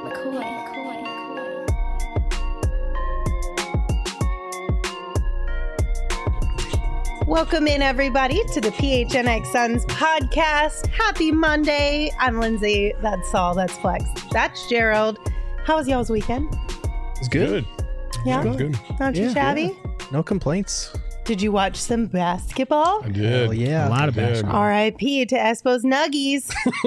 Welcome in, everybody, to the PHNX Suns podcast. Happy Monday. I'm Lindsay. That's Saul. That's Flex. That's Gerald. How was y'all's weekend? It's good. Yeah? It was good. Not too shabby? Yeah. No complaints. Did you watch some basketball? I did. Oh, yeah. A lot of basketball. R.I.P. to Espo's Nuggies.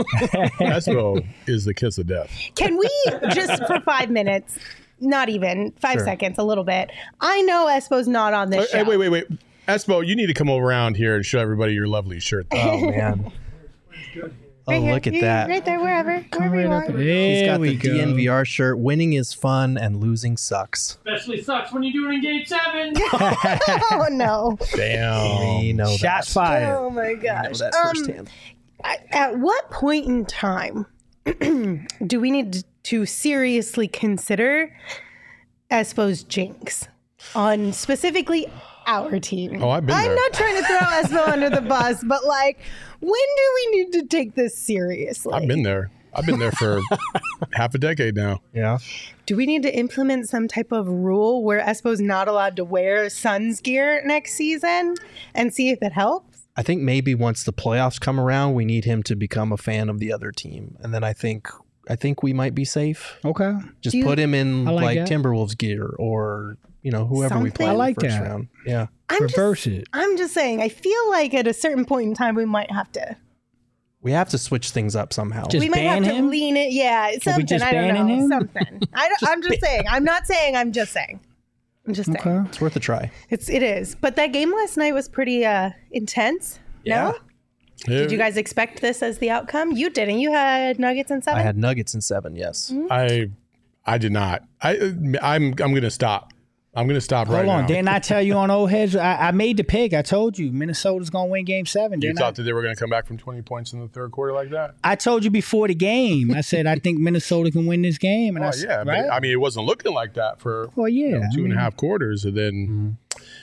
Espo is the kiss of death. Can we just for 5 minutes, not even 5 seconds, a little bit. I know Espo's not on this show. Hey, wait. Espo, you need to come around here and show everybody your lovely shirt. Oh, man. Right here. Look at that. Right there, wherever you are. He's got the DNVR shirt. Winning is fun and losing sucks. Especially sucks when you do it in Game 7. Oh, no. Damn. We know Shots that. fired. Oh, my We gosh. know that firsthand. At what point in time do we need to seriously consider Espo's jinx on specifically our team? Oh, I've been there. I'm not trying to throw Espo under the bus, but like, when do we need to take this seriously? I've been there. I've been there for half a decade now. Yeah. Do we need to implement some type of rule where Espo's not allowed to wear Suns gear next season and see if it helps? I think maybe once the playoffs come around, we need him to become a fan of the other team. And then I think we might be safe. Okay. Just put him in I like that. Timberwolves gear or, whoever we play Something. in I like the first that. round. Yeah. Reverse it. I'm just saying, I feel like at a certain point in time, we might have to. We have to switch things up somehow. Just We might have ban to him? lean it. Yeah, something. just I don't banning know. him? Something. I'm just saying. I'm not saying. I'm just saying. I'm just saying. Okay. It's worth a try. It is. But that game last night was pretty intense. No? Did you guys expect this as the outcome? You didn't. You had Nuggets in 7? I had Nuggets in 7, yes. Mm-hmm. I did not. I'm going to stop. I'm going to stop right Hold on. now. Didn't I tell you on Old Heads? I made the pick. I told you Minnesota's going to win Game 7. You Didn't thought that they were going to come back from 20 points in the third quarter like that? I told you before the game. I said I think Minnesota can win this game. And Oh, I said, yeah. right? But, I mean, it wasn't looking like that for Well, yeah. two and a half quarters. And then,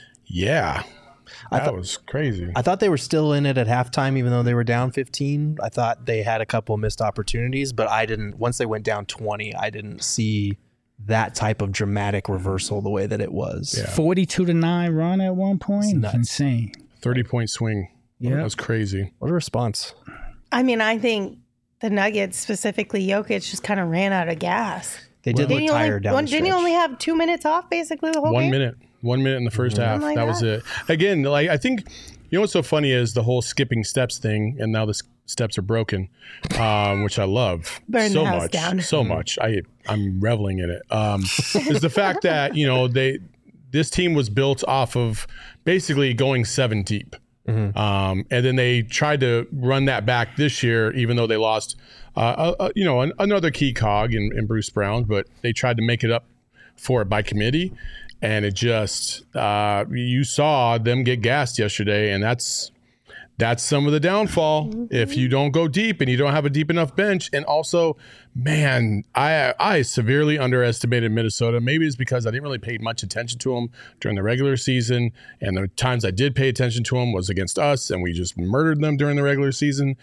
that was crazy. I thought they were still in it at halftime, even though they were down 15. I thought they had a couple missed opportunities, but I didn't. Once they went down 20, I didn't see that type of dramatic reversal the way that it was. Yeah. 42-9 run at one point. It's nuts. insane. 30-point swing. Yeah. That was crazy. What a response. I mean, I think the Nuggets, specifically Jokic, just kind of ran out of gas. They did look tired down the Didn't he stretch. only have 2 minutes off, basically, the whole 1 game? minute. 1 minute in the first half. my That was God. it. Again, like I think, what's so funny is the whole skipping steps thing, and now the steps are broken, which I love Burn so the house much. down. So much. I'm reveling in it. Is the fact that this team was built off of basically going 7 deep. And then they tried to run that back this year, even though they lost, another key cog in Bruce Brown, but they tried to make it up for it by committee. And it just, you saw them get gassed yesterday, and that's some of the downfall. If you don't go deep and you don't have a deep enough bench. And also, man, I severely underestimated Minnesota. Maybe it's because I didn't really pay much attention to them during the regular season. And the times I did pay attention to them was against us, and we just murdered them during the regular season.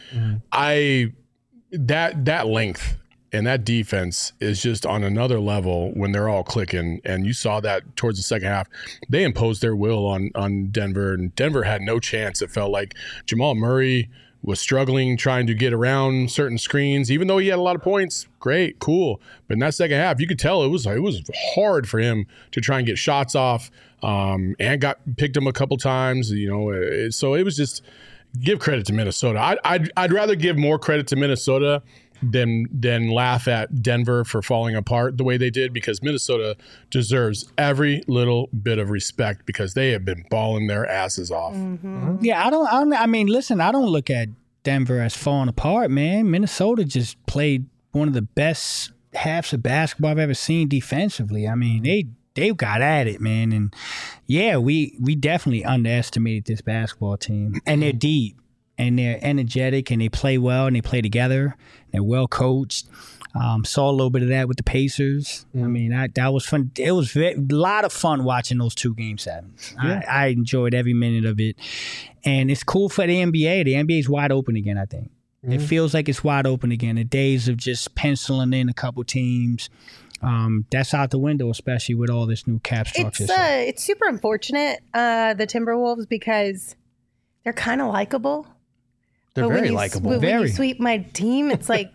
That length and that defense is just on another level when they're all clicking. And you saw that towards the second half. They imposed their will on Denver, and Denver had no chance. It felt like Jamal Murray was struggling trying to get around certain screens, even though he had a lot of points. Great, cool. But in that second half, you could tell it was hard for him to try and get shots off, and picked him a couple times. So it was just give credit to Minnesota. I'd rather give more credit to Minnesota than laugh at Denver for falling apart the way they did, because Minnesota deserves every little bit of respect because they have been balling their asses off. Yeah, I don't look at Denver as falling apart, man. Minnesota just played one of the best halves of basketball I've ever seen defensively. I mean, they got at it, man. And yeah, we definitely underestimated this basketball team. And they're deep. And they're energetic, and they play well, and they play together. They're well coached. Saw a little bit of that with the Pacers. I mean, that was fun. It was a lot of fun watching those 2 Game 7s. Yeah. I enjoyed every minute of it. And it's cool for the NBA. The NBA is wide open again, I think. It feels like it's wide open again. The days of just penciling in a couple teams, that's out the window, especially with all this new cap structure. It's super unfortunate, the Timberwolves, because they're kind of likable. They're But very likable. When you sweep my team, it's like,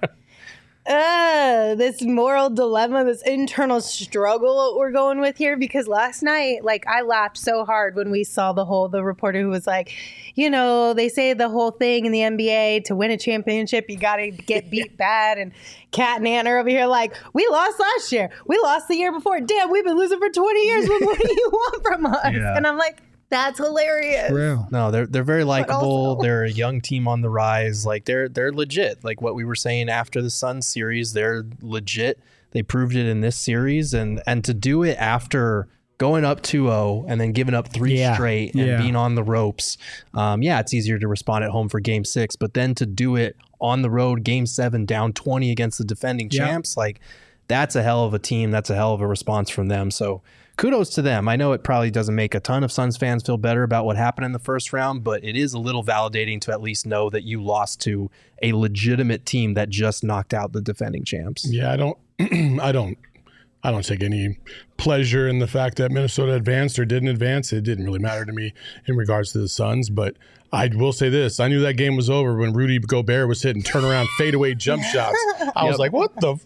this moral dilemma, this internal struggle we're going with here. Because last night, like, I laughed so hard when we saw the reporter who was like, you know, they say the whole thing in the NBA, to win a championship, you got to get beat bad. And Kat and Ant are over here like, we lost last year. We lost the year before. Damn, we've been losing for 20 years. What do you want from us? Yeah. And I'm like, that's hilarious. Real. No, they're very likable. also- They're a young team on the rise. Like they're legit. Like what we were saying after the Suns series, they're legit. They proved it in this series, and to do it after going up 2-0 and then giving up 3 straight and being on the ropes. It's easier to respond at home for game 6, but then to do it on the road, game 7, down 20 against the defending champs, like that's a hell of a team. That's a hell of a response from them. So kudos to them. I know it probably doesn't make a ton of Suns fans feel better about what happened in the first round, but it is a little validating to at least know that you lost to a legitimate team that just knocked out the defending champs. Yeah, I don't take any pleasure in the fact that Minnesota advanced or didn't advance. It didn't really matter to me in regards to the Suns, but I will say this. I knew that game was over when Rudy Gobert was hitting turnaround fadeaway jump shots. I was like, what the?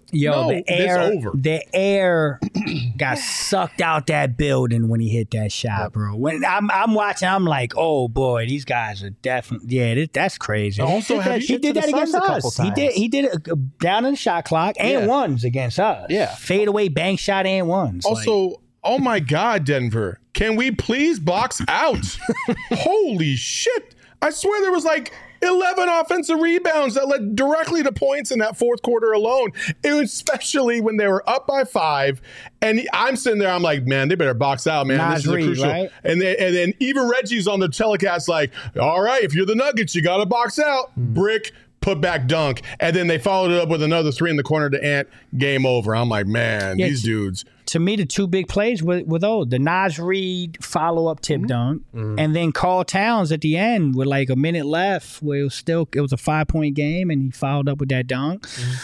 The air got sucked out that building when he hit that shot, bro. When I'm watching, I'm like, oh boy, these guys are definitely, that's crazy. Also, he did that against us. He did it down in the shot clock and ones against us. Yeah. Fadeaway bank shot and ones. Also, oh my God, Denver, can we please box out? Holy shit. I swear there was like 11 offensive rebounds that led directly to points in that fourth quarter alone. It was especially when they were up by 5. And I'm sitting there, I'm like, man, they better box out, man. This is crucial. Right? And then even Reggie's on the telecast like, all right, if you're the Nuggets, you got to box out. Brick, put back dunk. And then they followed it up with another 3 in the corner to Ant. Game over. I'm like, man, these dudes. To me, the 2 big plays were those. The Naz Reid follow-up tip dunk, and then Karl Towns at the end with like a minute left where it was a 5-point game, and he followed up with that dunk.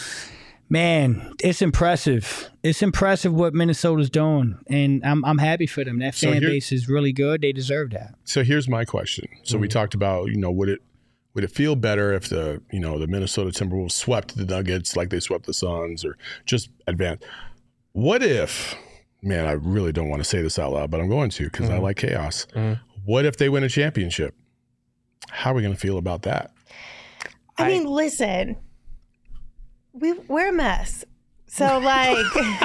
Man, it's impressive. It's impressive what Minnesota's doing, and I'm happy for them. That fan base is really good. They deserve that. So here's my question. So we talked about, would it feel better if the Minnesota Timberwolves swept the Nuggets like they swept the Suns or just advanced? What if, man, I really don't want to say this out loud, but I'm going to because I like chaos. What if they win a championship? How are we going to feel about that? I mean, listen, we're a mess. So, like,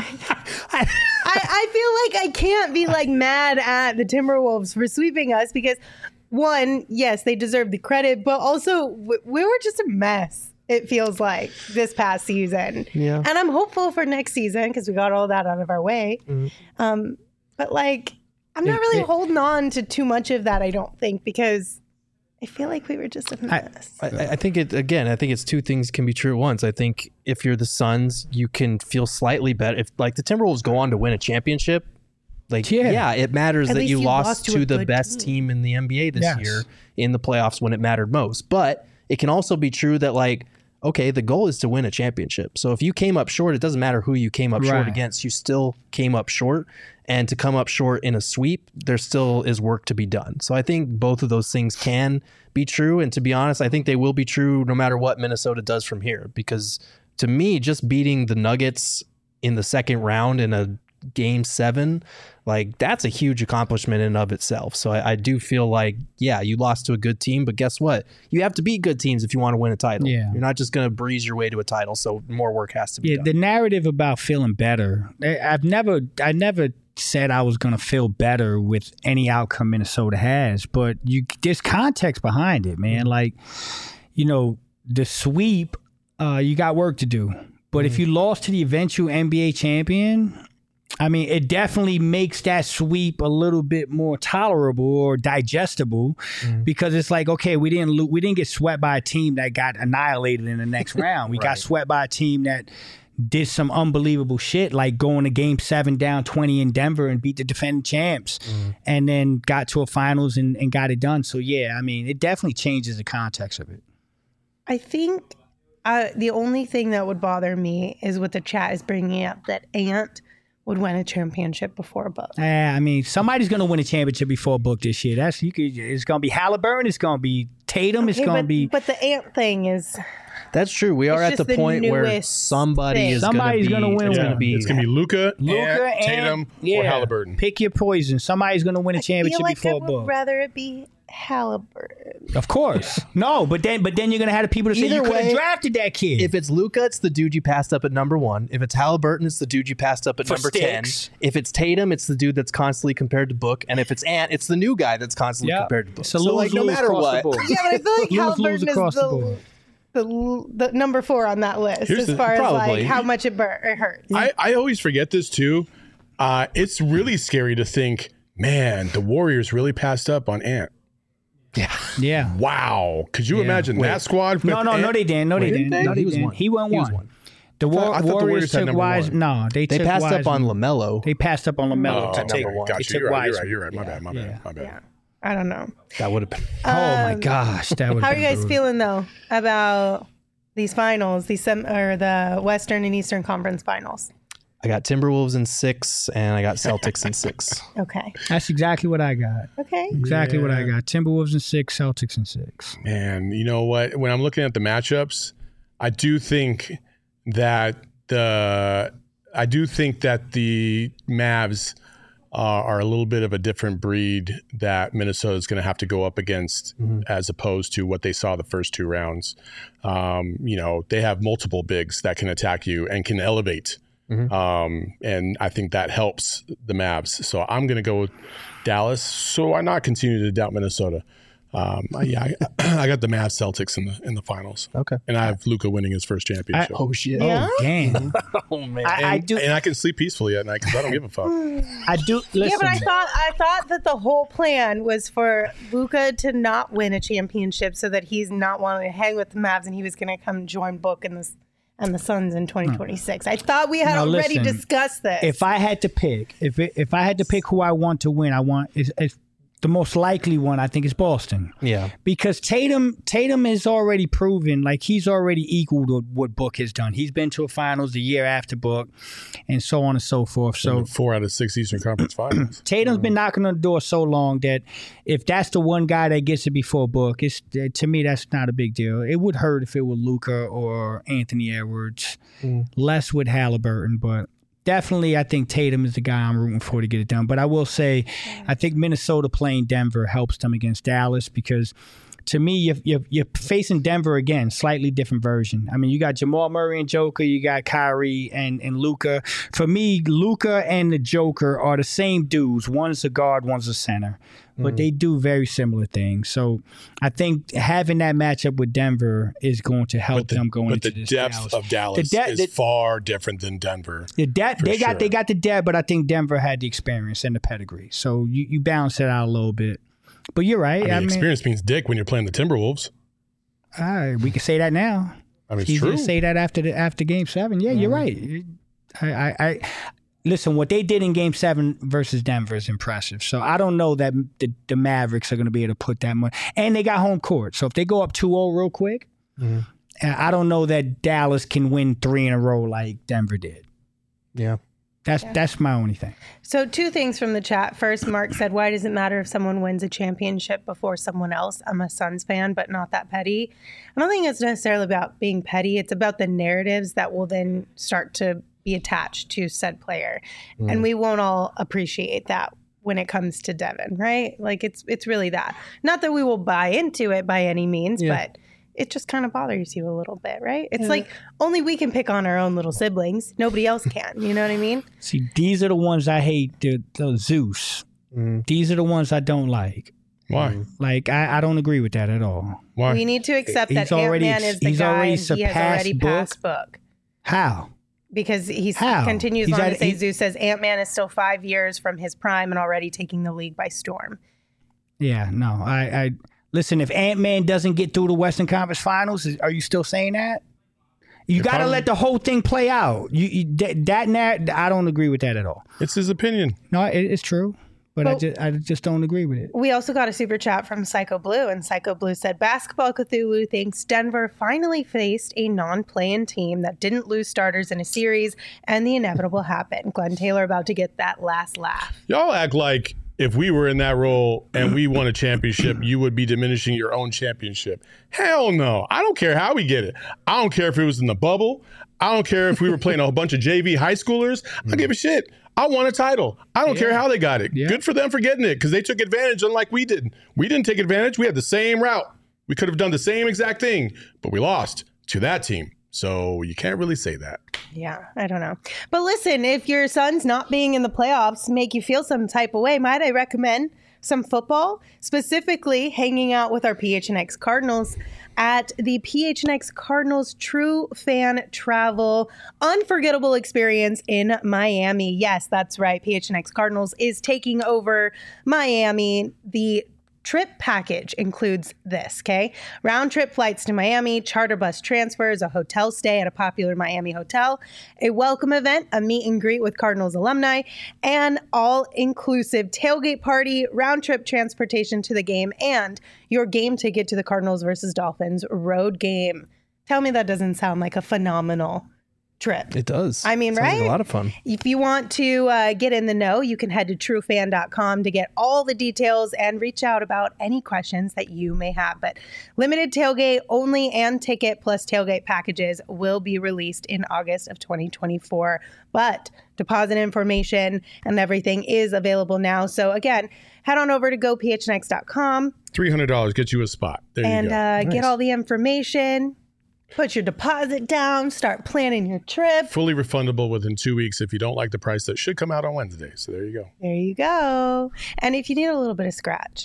I feel like I can't be, like, mad at the Timberwolves for sweeping us because, one, yes, they deserve the credit, but also we were just a mess. It feels like this past season. Yeah. And I'm hopeful for next season because we got all that out of our way. But like, I'm not really holding on to too much of that, I don't think, because I feel like we were just a mess. I think it's 2 things can be true at once. I think if you're the Suns, you can feel slightly better. If like the Timberwolves go on to win a championship, like, it matters that you lost to the best team in the NBA this year in the playoffs when it mattered most. But it can also be true that like, okay, the goal is to win a championship. So if you came up short, it doesn't matter who you came up short against. You still came up short. And to come up short in a sweep, there still is work to be done. So I think both of those things can be true. And to be honest, I think they will be true no matter what Minnesota does from here. Because to me, just beating the Nuggets in the second round in a game 7, like that's a huge accomplishment in and of itself. So I do feel like, you lost to a good team, but guess what? You have to beat good teams if you want to win a title. Yeah. You're not just going to breeze your way to a title. So more work has to be done. The narrative about feeling better, I never said I was going to feel better with any outcome Minnesota has, but there's context behind it, man. Like, the sweep, you got work to do. But if you lost to the eventual NBA champion, I mean, it definitely makes that sweep a little bit more tolerable or digestible because it's like, okay, we didn't get swept by a team that got annihilated in the next round. We got swept by a team that did some unbelievable shit, like going to game 7 down 20 in Denver and beat the defending champs and then got to a finals and got it done. So, I mean, it definitely changes the context of it. I think the only thing that would bother me is what the chat is bringing up, that Ant would win a championship before Book. I mean, somebody's going to win a championship before Book this year. It's going to be Halliburton. It's going to be Tatum. It's going to be. But the Ant thing is. That's true. We are It's at the just the point where newest somebody thing. is Somebody's going to gonna win It's one. going to be. It's gonna be Luka, Luka and Tatum, or Halliburton. Pick your poison. Somebody's going to win a I championship feel like I before would Book. rather it be Halliburton. Of course. No, but then you're going to have the people to say Either you could have way, drafted that kid. If it's Luka, it's the dude you passed up at number 1. If it's Halliburton, it's the dude you passed up at For number sticks. 10. If it's Tatum, it's the dude that's constantly compared to Book. And if it's Ant, it's the new guy that's constantly Yep. compared to Book. It's a So like, no lose-lose matter across the what, board. Yeah, but I feel like Lose Halliburton across the is board. the number 4 on that list Here's as the- far as probably. like how much it hurts. I always forget this too. It's really scary to think, man, the Warriors really passed up on Ant. Yeah. Wow. Could you imagine that squad? No, they didn't. No, they didn't. No, they He was didn't. one. He won He was one. one. The I thought the Warriors Warriors had took number Wise. one. No, they took passed up on Wiseman. LaMelo. They passed up on LaMelo to Oh, take okay, one. gotcha. They took You're right. Wiseman. You're right. My bad. My bad. Yeah. I don't know. That would have been. Oh my gosh, that was. How are you guys feeling though about these finals, or the Western and Eastern Conference finals? I got Timberwolves in 6, and I got Celtics in 6. Okay. That's exactly what I got. Okay. Exactly what I got. Timberwolves in 6, Celtics in 6. Man, you know what? When I'm looking at the matchups, I do think that the Mavs are a little bit of a different breed that Minnesota is going to have to go up against, as opposed to what they saw the first 2 rounds. They have multiple bigs that can attack you and can elevate. And I think that helps the Mavs. So I'm going to go with Dallas. So why not continue to doubt Minnesota? I got the Mavs Celtics in the finals. Okay. And I have Luka winning his first championship. Oh, shit. Yeah. Oh damn! Oh, man. I do. And I can sleep peacefully at night because I don't give a fuck. I do. Listen. Yeah, but I thought that the whole plan was for Luka to not win a championship so that he's not wanting to hang with the Mavs and he was going to come join Book and the Suns in 2026. I thought we had Now, already listen, discussed this. If I had to pick, if I had to pick who I want to win, I want is the most likely one. I think is Boston. Yeah. Because Tatum has already proven, like he's already equaled what Book has done. He's been to a finals the year after Book, and so on and so forth. So 4 out of 6 Eastern Conference Finals. Tatum's been knocking on the door so long that if that's the one guy that gets it before Book, to me that's not a big deal. It would hurt if it were Luka or Anthony Edwards, less with Halliburton, but definitely I think Tatum is the guy I'm rooting for to get it done. But I will say, I think Minnesota playing Denver helps them against Dallas because to me, you're facing Denver again, slightly different version. I mean, you got Jamal Murray and Joker, you got Kyrie and Luka. For me, Luka and the Joker are the same dudes. One's a guard, one's a center. But they do very similar things. So I think having that matchup with Denver is going to help them go into this depth Dallas. of Dallas is far different than Denver. The depth, they got the depth, but I think Denver had the experience and the pedigree. So you balance it out a little bit. But you're right. I mean, experience means dick when you're playing the Timberwolves. We can say that now. I mean, it's Easy true. to say that after Game 7. Yeah, you're right. I listen. What they did in Game 7 versus Denver is impressive. So I don't know that the Mavericks are going to be able to put that much. And they got home court. So if they go up 2-0 real quick, I don't know that Dallas can win 3 in a row like Denver did. Yeah. That's my only thing. So 2 things from the chat. First, Mark said, why does it matter if someone wins a championship before someone else? I'm a Suns fan, but not that petty. I don't think it's necessarily about being petty. It's about the narratives that will then start to be attached to said player. And we won't all appreciate that when it comes to Devin, right? Like it's really that. Not that we will buy into it by any means, but it just kind of bothers you a little bit, right? It's like only we can pick on our own little siblings. Nobody else can. You know what I mean? See, these are the ones I hate, the Zeus. These are the ones I don't like. Why? Like, I don't agree with that at all. Why? We need to accept that He's already Ant-Man is the he's guy already and he has already passed Book. How? Because he How? continues He's on at- to say, he- Zeus says Ant-Man is still 5 years from his prime and already taking the league by storm. Yeah, no. I listen, if Ant-Man doesn't get through the Western Conference Finals, are you still saying that? You got to let the whole thing play out. I don't agree with that at all. It's his opinion. No, it's true. but I just don't agree with it. We also got a super chat from Psycho Blue, and Psycho Blue said, Basketball Cthulhu thinks Denver finally faced a non-play-in team that didn't lose starters in a series, and the inevitable happened. Glenn Taylor about to get that last laugh. Y'all act like if we were in that role and we won a championship, you would be diminishing your own championship. Hell no. I don't care how we get it. I don't care if it was in the bubble. I don't care if we were playing a whole bunch of JV high schoolers. I don't give a shit. I won a title. I don't care how they got it. Good for them for getting it because they took advantage unlike we did. We didn't take advantage. We had the same route. We could have done the same exact thing, but we lost to that team. So you can't really say that. Yeah, I don't know. But listen, if your son's not being in the playoffs make you feel some type of way, might I recommend some football, specifically hanging out with our PHNX Cardinals at the PHNX Cardinals True Fan Travel Unforgettable Experience in Miami. Yes, that's right. PHNX Cardinals is taking over Miami. The trip package includes this, okay? Round trip flights to Miami, charter bus transfers, a hotel stay at a popular Miami hotel, a welcome event, a meet and greet with Cardinals alumni, and all-inclusive tailgate party, round trip transportation to the game, and your game ticket to the Cardinals versus Dolphins road game. Tell me that doesn't sound like a phenomenal trip. It does. I mean, Sounds right? like a lot of fun. If you want to get in the know, you can head to truefan.com to get all the details and reach out about any questions that you may have. But limited tailgate only and ticket plus tailgate packages will be released in August of 2024. But deposit information and everything is available now. So again, head on over to gophnx.com. $300 gets you a spot. There you go. And get all the information. Put your deposit down, start planning your trip. Fully refundable within 2 weeks if you don't like the price. That should come out on Wednesday. So there you go. There you go. And if you need a little bit of scratch,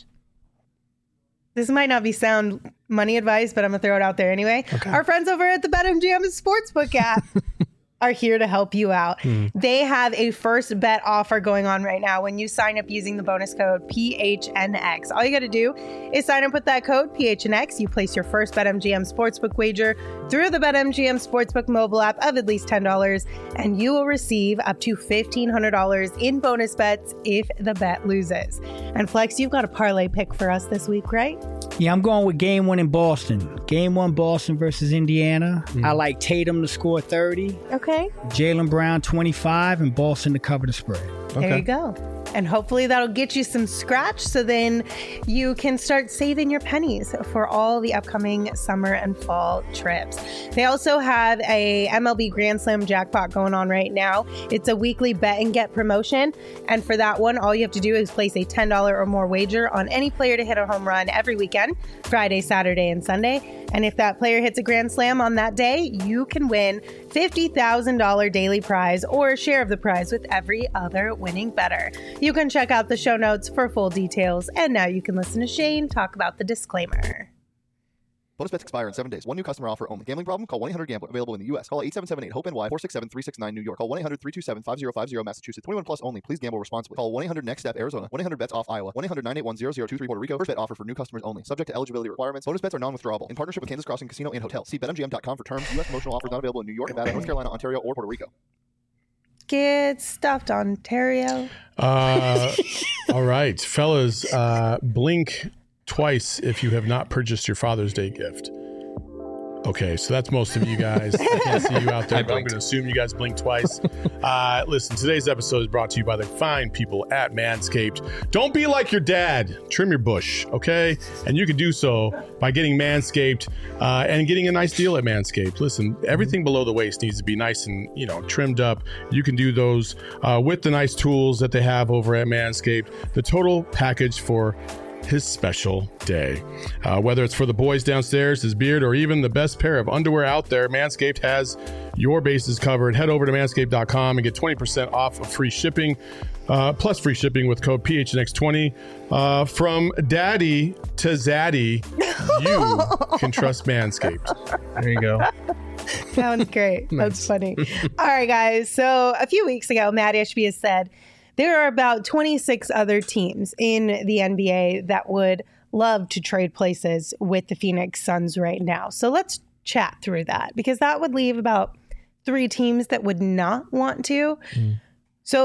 this might not be sound money advice, but I'm going to throw it out there anyway. Okay. Our friends over at the BetMGM Sportsbook app are here to help you out. They have a first bet offer going on right now when you sign up using the bonus code PHNX. All you got to do is sign up with that code PHNX. You place your first BetMGM Sportsbook wager through the BetMGM Sportsbook mobile app of at least $10, and you will receive up to $1,500 in bonus bets if the bet loses. And Flex, you've got a parlay pick for us this week, right? Yeah, I'm going with game one in Boston. Game one, Boston versus Indiana. I like Tatum to score 30. Okay. Jaylen Brown 25 and Boston to cover the spread. There you go. And hopefully that'll get you some scratch so then you can start saving your pennies for all the upcoming summer and fall trips. They also have a MLB Grand Slam jackpot going on right now. It's a weekly bet and get promotion. And for that one, all you have to do is place a $10 or more wager on any player to hit a home run every weekend, Friday, Saturday, and Sunday. And if that player hits a Grand Slam on that day, you can win $50,000 daily prize or a share of the prize with every other winning bettor. You can check out the show notes for full details. And now you can listen to Shane talk about the disclaimer. Bonus bets expire in 7 days. One new customer offer only. Gambling problem? Call 1-800-GAMBLER. Available in the U.S. Call 877-8-HOPE-NY 467-369 New York. Call 1-800-327-5050 Massachusetts. 21 plus only. Please gamble responsibly. Call 1-800-NEXT-STEP Arizona. 1-800-BETS-OFF Iowa. 1-800-981-0023 Puerto Rico. First bet offer for new customers only. Subject to eligibility requirements. Bonus bets are non-withdrawable. In partnership with Kansas Crossing Casino and Hotel. See BetMGM.com for terms. U.S. promotional offers not available in New York, Nevada, North Carolina, Ontario, or Puerto Rico. Get stuffed, Ontario. All right, fellas, blink twice if you have not purchased your Father's Day gift. Okay, so that's most of you guys. I can't see you out there, but I'm going to assume you guys blink twice. Listen, today's episode is brought to you by the fine people at Manscaped. Don't be like your dad. Trim your bush, okay? And you can do so by getting Manscaped and getting a nice deal at Manscaped. Listen, everything below the waist needs to be nice and, trimmed up. You can do those with the nice tools that they have over at Manscaped. The total package for his special day. Whether it's for the boys downstairs, his beard, or even the best pair of underwear out there, Manscaped has your bases covered. Head over to manscaped.com and get 20% off of free shipping, plus free shipping with code PHNX20. From daddy to zaddy, you can trust Manscaped. There you go. Sounds great. That's funny. All right, guys. So a few weeks ago, Matt Ishbia has said there are about 26 other teams in the NBA that would love to trade places with the Phoenix Suns right now. So let's chat through that, because that would leave about 3 teams that would not want to. So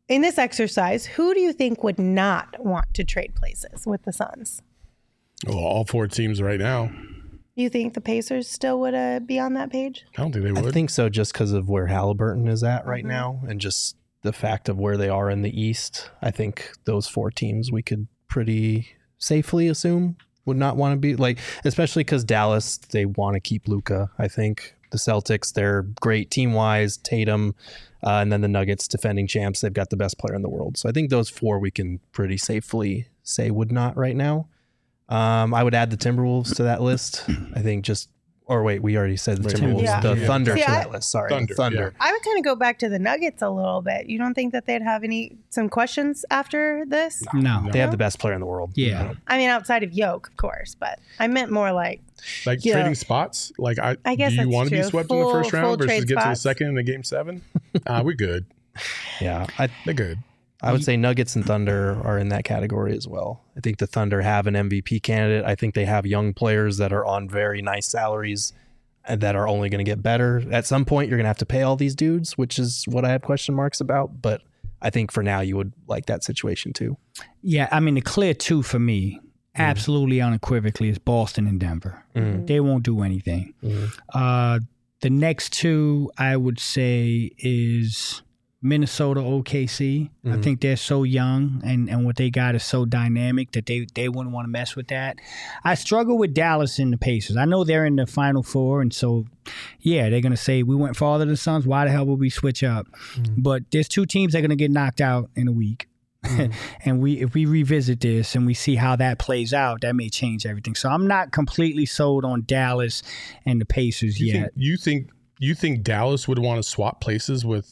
in this exercise, who do you think would not want to trade places with the Suns? Well, all 4 teams right now. You think the Pacers still would be on that page? I don't think they would. I think so, just because of where Halliburton is at right now, and just the fact of where they are in the East. I think those 4 teams we could pretty safely assume would not want to be like, especially because Dallas, they want to keep Luka. I think the Celtics, they're great team wise. Tatum, and then the Nuggets, defending champs, they've got the best player in the world. So I think those 4 we can pretty safely say would not right now. I would add the Timberwolves to that list. I think we already said the Timberwolves, Yeah. the Thunder See, to that list. Sorry, Thunder. I would kind of go back to the Nuggets a little bit. You don't think that they'd have some questions after this? No. They have the best player in the world. Yeah. I mean, outside of Yoke, of course, but I meant more like trading spots. Like, I guess do you that's want to be true. swept in the first Full round versus trade get to the spots. second in the game 7? We're good. Yeah. They're good. I would say Nuggets and Thunder are in that category as well. I think the Thunder have an MVP candidate. I think they have young players that are on very nice salaries and that are only going to get better. At some point, you're going to have to pay all these dudes, which is what I have question marks about. But I think for now, you would like that situation too. Yeah, I mean, the clear 2 for me, absolutely unequivocally, is Boston and Denver. They won't do anything. The next 2, I would say, is Minnesota, OKC. I think they're so young and what they got is so dynamic that they wouldn't want to mess with that. I struggle with Dallas and the Pacers. I know they're in the Final Four, and so, yeah, they're going to say, we went farther than the Suns. Why the hell would we switch up? But there's 2 teams that are going to get knocked out in a week. And if we revisit this and we see how that plays out, that may change everything. So I'm not completely sold on Dallas and the Pacers yet. You think Dallas would want to swap places with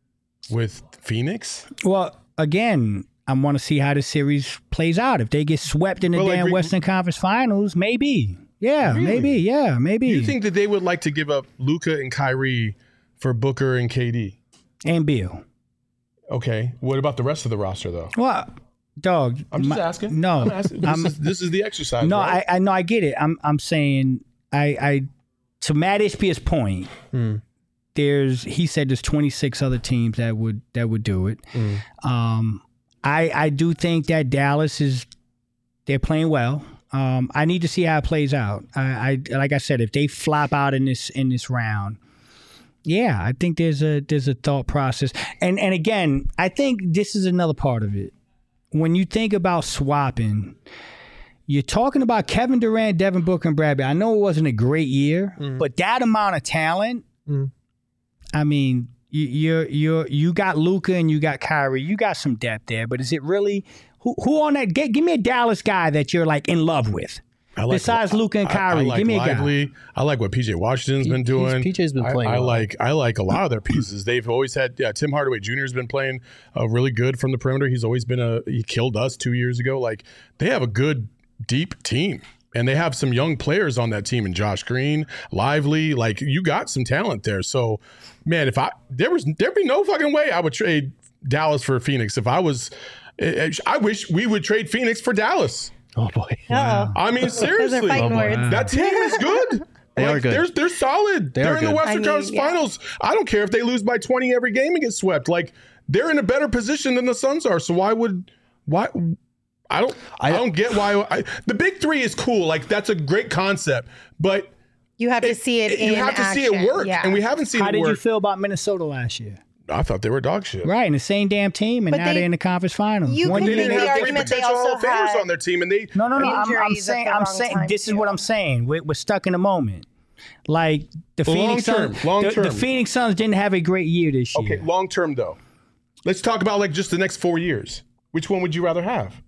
Phoenix? Well, again, I want to see how the series plays out. If they get swept in the damn Western Conference Finals, maybe. Yeah, Really? maybe. Yeah, maybe. You think that they would like to give up Luka and Kyrie for Booker and KD? And Beal. Okay. What about the rest of the roster, though? Well, dog. I'm just asking. No. I'm asking. This is the exercise. No, right? I know. I get it. I'm saying to Matt Ishbia's point, he said there's 26 other teams that would do it. I do think that Dallas they're playing well. I need to see how it plays out. I like I said, if they flop out in this round, yeah, I think there's a thought process. And again, I think this is another part of it. When you think about swapping, you're talking about Kevin Durant, Devin Booker, and Bradley. I know it wasn't a great year, but that amount of talent, I mean, you got Luka and you got Kyrie. You got some depth there, but is it really who on that? Give me a Dallas guy that you're like in love with. Besides Luka and Kyrie, I like give me a Lively. guy. I like what PJ Washington's been doing. PJ's been playing. I well. like a lot of their pieces. They've always had. Yeah, Tim Hardaway Jr. has been playing really good from the perimeter. He's always been he killed us 2 years ago. Like, they have a good deep team. And they have some young players on that team, and Josh Green, Lively, like, you got some talent there. So, man, there'd be no fucking way I would trade Dallas for Phoenix. If I wish we would trade Phoenix for Dallas. Oh boy. Uh-oh. I mean, Those are seriously, fighting words. that team is good. They are good. They're solid. They They're are in the good. Western Conference Finals. I don't care if they lose by 20 every game and get swept. Like, they're in a better position than the Suns are. So I don't get why the big 3 is cool. Like, that's a great concept, but You have to see it in you have to see it action. work, Yeah. and we haven't seen How it did work. you feel about Minnesota last year? I thought they were dog shit. Right, in the same damn team, and But now they're in the conference finals. You One could They year make didn't the have 3 argument they potential also Hall of Famers had- on their team, and they No. I'm injuries at saying. the I'm wrong saying. time, This is too. what I'm saying. We're stuck in a moment. Like the Phoenix Suns. Long The term. Phoenix Suns didn't have a great year this year. okay. Long term though, let's talk about like just the next 4 years. Which one would you rather have?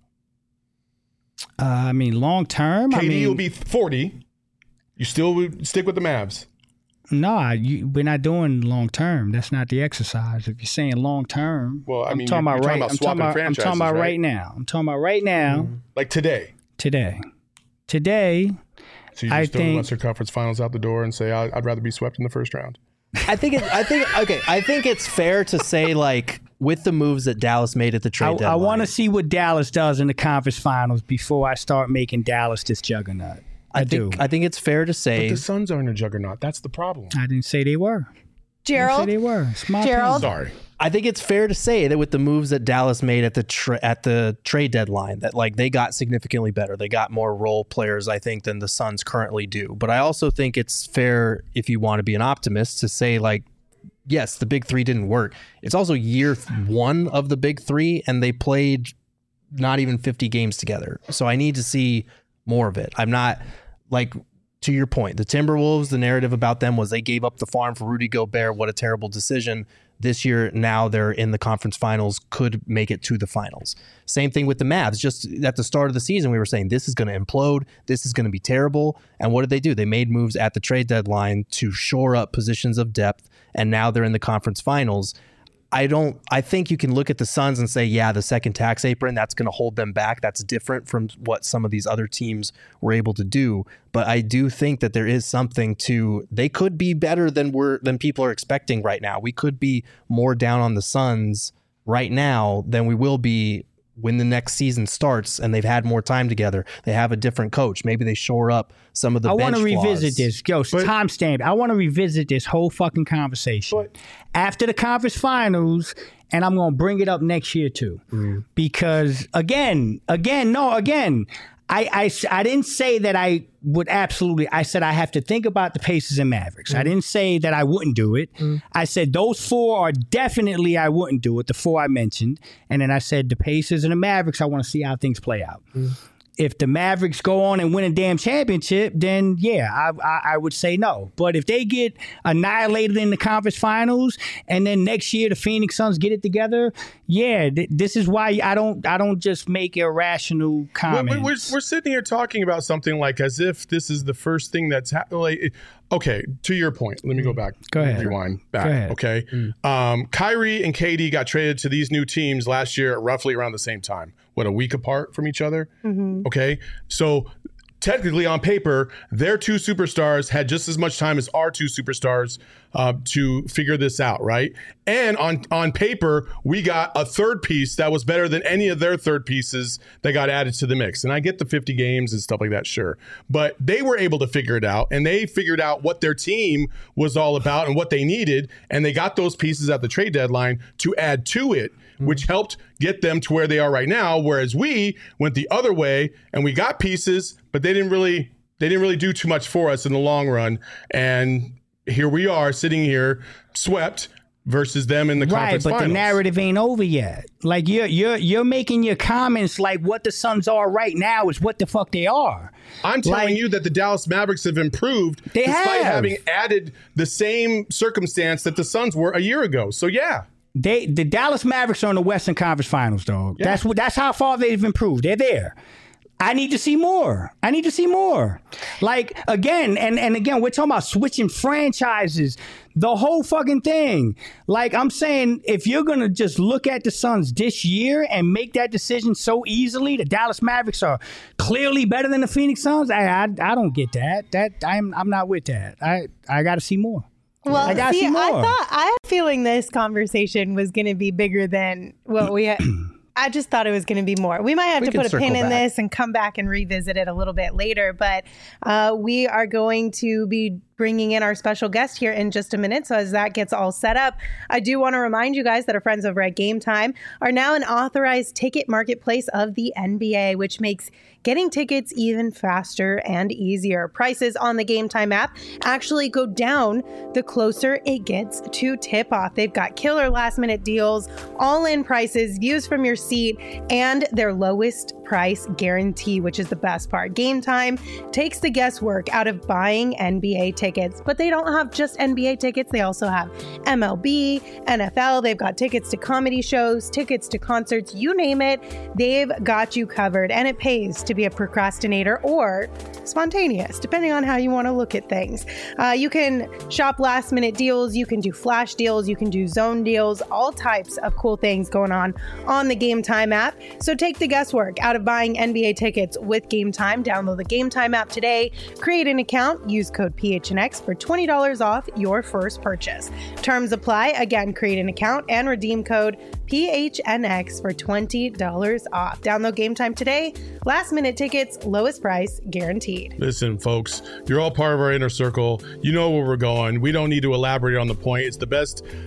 I mean, long term. KD will be 40. You still would stick with the Mavs. No, we're not doing long term. That's not the exercise. If you're saying long term, Well, I I'm mean, talking you're about talking right. about I'm swapping talking about franchises, right right? now. I'm talking about right now. Like today. Today. So you I just throw the think- Western Conference Finals out the door and say I'd rather be swept in the first round. I think it's fair to say, like, with the moves that Dallas made at the trade I deadline. want to see what Dallas does in the conference finals before I start making Dallas this juggernaut. I do. I think it's fair to say The Suns aren't a juggernaut. That's the problem. I didn't say they were. I didn't Gerald, say they were. It's my Gerald? opinion. Sorry. I think it's fair to say that with the moves that Dallas made at the trade deadline, that like they got significantly better. They got more role players, I think, than the Suns currently do. But I also think it's fair, if you want to be an optimist, to say like, yes, the big three didn't work. It's also year one of the big three, and they played not even 50 games together. So I need to see more of it. I'm not like, to your point, the Timberwolves, the narrative about them was they gave up the farm for Rudy Gobert. What a terrible decision. This year, now they're in the conference finals, could make it to the finals. Same thing with the Mavs. Just at the start of the season, we were saying this is going to implode. This is going to be terrible. And what did they do? They made moves at the trade deadline to shore up positions of depth. And now they're in the conference finals. I think you can look at the Suns and say, yeah, the second tax apron, that's going to hold them back. That's different from what some of these other teams were able to do. But I do think that there is something to, they could be better than people are expecting right now. We could be more down on the Suns right now than we will be when the next season starts and they've had more time together. They have a different coach. Maybe they shore up some of the bench I want to revisit flaws. this. Yo, timestamp. I want to revisit this whole fucking conversation after the conference finals, and I'm going to bring it up next year too. Because again, I didn't say that I would absolutely. I said I have to think about the Pacers and Mavericks. I didn't say that I wouldn't do it. I said those four are definitely I wouldn't do it, the four I mentioned. And then I said the Pacers and the Mavericks, I want to see how things play out. If the Mavericks go on and win a damn championship, then yeah, I would say no. But if they get annihilated in the conference finals and then next year the Phoenix Suns get it together, yeah, this is why I don't just make irrational comments. We're sitting here talking about something like as if this is the first thing that's happened. Okay, to your point, let me go back. Go ahead. Rewind back. Go ahead. Okay. Kyrie and KD got traded to these new teams last year at roughly around the same time. What, a week apart from each other? Okay. So technically on paper, their two superstars had just as much time as our two superstars to figure this out, right? And on paper, we got a third piece that was better than any of their third pieces that got added to the mix. And I get the 50 games and stuff like that, sure. But they were able to figure it out, and they figured out what their team was all about and what they needed, and they got those pieces at the trade deadline to add to it, which helped get them to where they are right now, whereas we went the other way and we got pieces, but they didn't really do too much for us in the long run. And here we are sitting here swept versus them in the conference finals. Right, but the narrative ain't over yet. Like you're making your comments like what the Suns are right now is what the fuck they are. I'm telling you that the Dallas Mavericks have improved despite having added the same circumstance that the Suns were a year ago. So yeah. The Dallas Mavericks are in the Western Conference Finals, dog. Yeah. That's how far they've improved. They're there. I need to see more. Like, again, and again, we're talking about switching franchises, the whole fucking thing. Like, I'm saying, if you're going to just look at the Suns this year and make that decision so easily, the Dallas Mavericks are clearly better than the Phoenix Suns, I don't get that. I'm not with that. I got to see more. Well, I had a feeling this conversation was going to be bigger than what we had. I just thought it was going to be more. We might have to put a pin in this and come back and revisit it a little bit later. But we are going to be bringing in our special guest here in just a minute. So as that gets all set up, I do want to remind you guys that our friends over at Game Time are now an authorized ticket marketplace of the NBA, which makes getting tickets even faster and easier. Prices on the Game Time app actually go down the closer it gets to tip off. They've got killer last minute deals, all in prices, views from your seat, and their lowest price guarantee, which is the best part. Game Time takes the guesswork out of buying NBA tickets, but they don't have just NBA tickets. They also have MLB, NFL. They've got tickets to comedy shows, tickets to concerts, you name it. They've got you covered, and it pays to be a procrastinator or spontaneous, depending on how you want to look at things. You can shop last minute deals. You can do flash deals. You can do zone deals, all types of cool things going on the Game Time app. So take the guesswork out of buying NBA tickets with Game Time. Download the Game Time app today, create an account, use code PHNX for $20 off your first purchase. Terms apply. Again, create an account and redeem code PHNX for $20 off. Download Game Time today. Last minute tickets, lowest price guaranteed. Listen, folks, you're all part of our inner circle. You know where we're going. We don't need to elaborate on the point. It's the best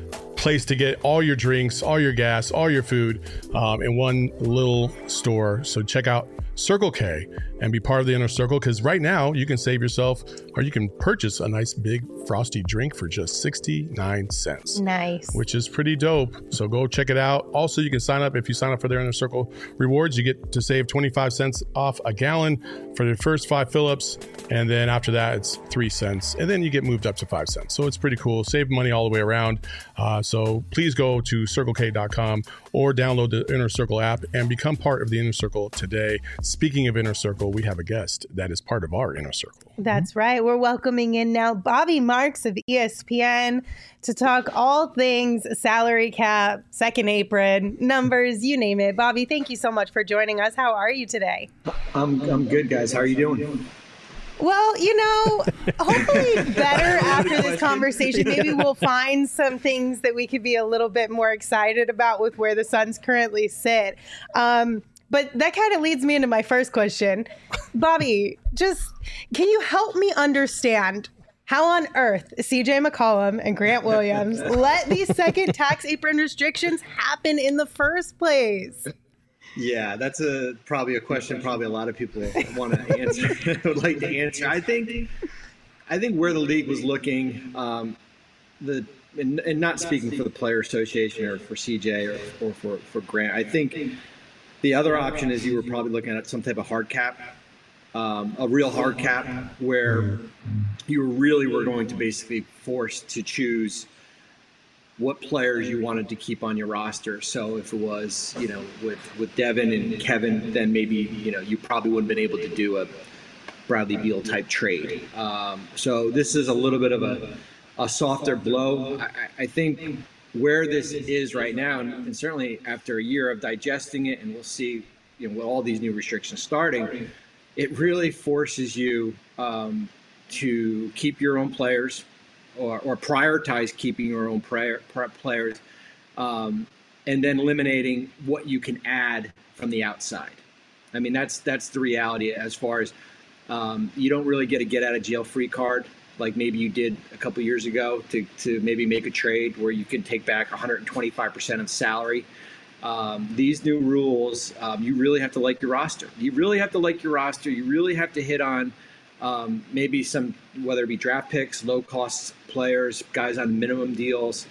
place to get all your drinks, all your gas, all your food in one little store. So check out Circle K and be part of the Inner Circle, because right now you can save yourself, or you can purchase a nice big frosty drink for just 69 cents. Nice. Which is pretty dope. So go check it out. Also, you can sign up. If you sign up for their Inner Circle rewards, you get to save 25 cents off a gallon for the first 5 fill-ups. And then after that, it's 3 cents. And then you get moved up to 5 cents. So it's pretty cool. Save money all the way around. So please go to CircleK.com or download the Inner Circle app and become part of the Inner Circle today. Speaking of Inner Circle, we have a guest that is part of our Inner Circle. That's right. We're welcoming in now Bobby Marks of ESPN to talk all things salary cap, second apron, numbers, you name it. Bobby, thank you so much for joining us. How are you today? I'm good, guys. How are you doing? Well, hopefully better after this conversation. Maybe we'll find some things that we could be a little bit more excited about with where the Suns currently sit. But that kind of leads me into my first question. Bobby, can you help me understand how on earth CJ McCollum and Grant Williams let these second tax apron restrictions happen in the first place? Yeah, that's probably a question a lot of people want to answer, would like to answer. I think where the league was looking, and not speaking for the Player Association or for CJ or for Grant, I think the other option is you were probably looking at some type of hard cap, a real hard cap, where you really were going to basically force to choose what players you wanted to keep on your roster. So if it was, with Devin and Kevin, then maybe, you probably wouldn't have been able to do a Bradley Beal type trade. So this is a little bit of a softer blow. I think where this is right now, and certainly after a year of digesting it, and we'll see, with all these new restrictions starting, it really forces you to keep your own players, or prioritize keeping your own players, and then eliminating what you can add from the outside. I mean, that's the reality as far as you don't really get a get out of jail free card like maybe you did a couple years ago to maybe make a trade where you can take back 125% of salary. These new rules, you really have to like your roster. You really have to hit on maybe some, whether it be draft picks, low-cost players, guys on minimum deals.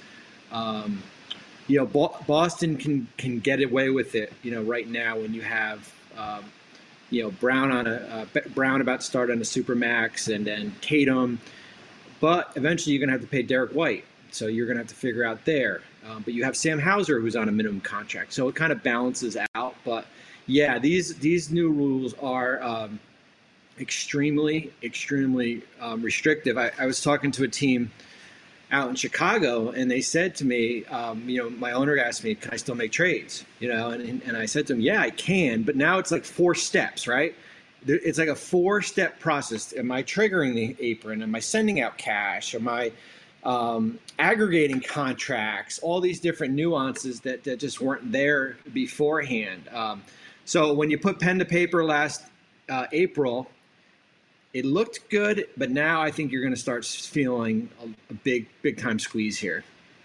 Boston can get away with it, right now when you have, Brown Brown about to start on a supermax, and then Tatum. But eventually you're going to have to pay Derek White, so you're going to have to figure out there. But you have Sam Hauser, who's on a minimum contract, so it kind of balances out. But yeah, these new rules are extremely restrictive. I was talking to a team out in Chicago, and they said to me, my owner asked me, can I still make trades? And I said to him, yeah, I can, but now it's like 4 steps, right? It's like a 4-step process. Am I triggering the apron? Am I sending out cash? Am I aggregating contracts? All these different nuances that just weren't there beforehand. So when you put pen to paper last April, it looked good, but now I think you're going to start feeling a big time squeeze here.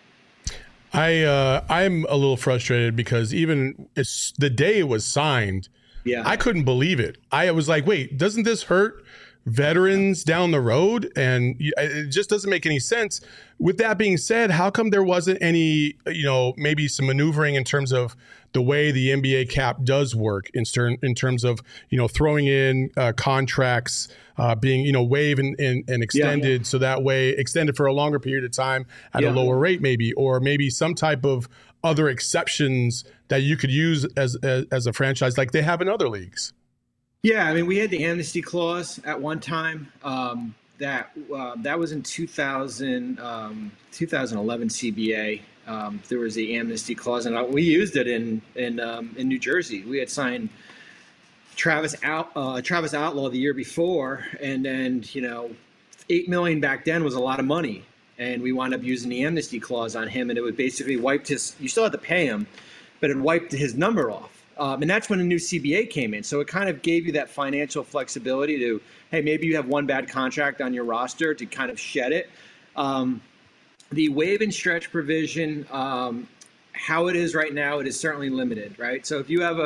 I'm a little frustrated because even the day it was signed, I couldn't believe it. I was like, wait, doesn't this hurt veterans down the road? And it just doesn't make any sense. With that being said, how come there wasn't any, maybe some maneuvering in terms of the way the NBA cap does work in terms of, throwing in contracts being, waived and extended, so that way extended for a longer period of time at a lower rate maybe, or maybe some type of other exceptions that you could use as a franchise like they have in other leagues? Yeah, I mean, we had the amnesty clause at one time. That was in 2011 CBA. There was the amnesty clause, and we used it in New Jersey. We had signed Travis Outlaw the year before, and then $8 million back then was a lot of money, and we wound up using the amnesty clause on him, and it would basically wiped his. You still had to pay him, but it wiped his number off. And that's when the new CBA came in. So it kind of gave you that financial flexibility to, hey, maybe you have one bad contract on your roster to kind of shed it. the waive and stretch provision, how it is right now, it is certainly limited, right? So if you have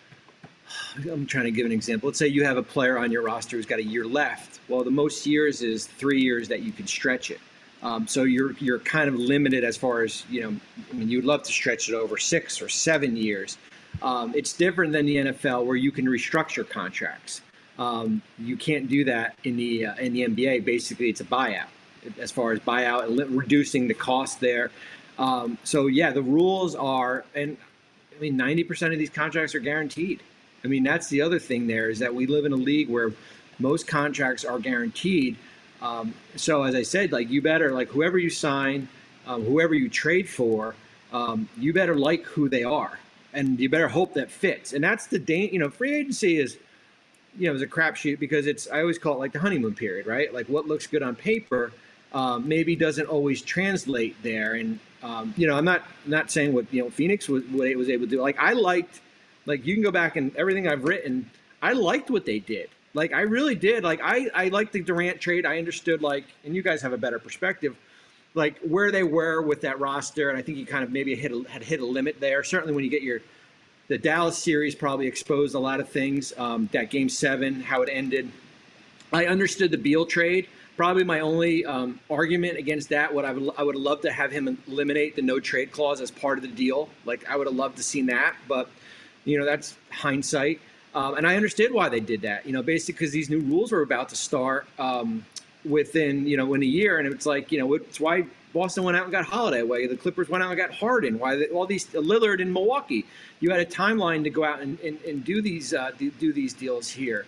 I'm trying to give an example. Let's say you have a player on your roster who's got a year left. Well, the most years is 3 years that you can stretch it. So you're kind of limited as far as, you'd love to stretch it over 6 or 7 years. It's different than the NFL where you can restructure contracts. You can't do that in the NBA. Basically, it's a buyout as far as buyout and reducing the cost there. The rules are, and 90% of these contracts are guaranteed. That's the other thing there is that we live in a league where most contracts are guaranteed. So as I said, you better, whoever you sign, whoever you trade for, you better like who they are, and you better hope that fits. And that's the free agency is, is a crapshoot because I always call it the honeymoon period, right? What looks good on paper maybe doesn't always translate there. And I'm not saying what Phoenix was able to do. I liked, you can go back and everything I've written, I liked what they did. I really did. I liked the Durant trade. I understood, and you guys have a better perspective, where they were with that roster. And I think you kind of maybe had hit a limit there. Certainly when you get the Dallas series probably exposed a lot of things. That Game 7, how it ended. I understood the Beal trade. Probably my only argument against that, I would have loved to have him eliminate the no trade clause as part of the deal. I would have loved to seen that, but that's hindsight. And I understood why they did that, basically because these new rules were about to start within, in a year. And it's it's why Boston went out and got Holiday, why the Clippers went out and got Harden, why all these Lillard in Milwaukee. You had a timeline to go out and do these deals here.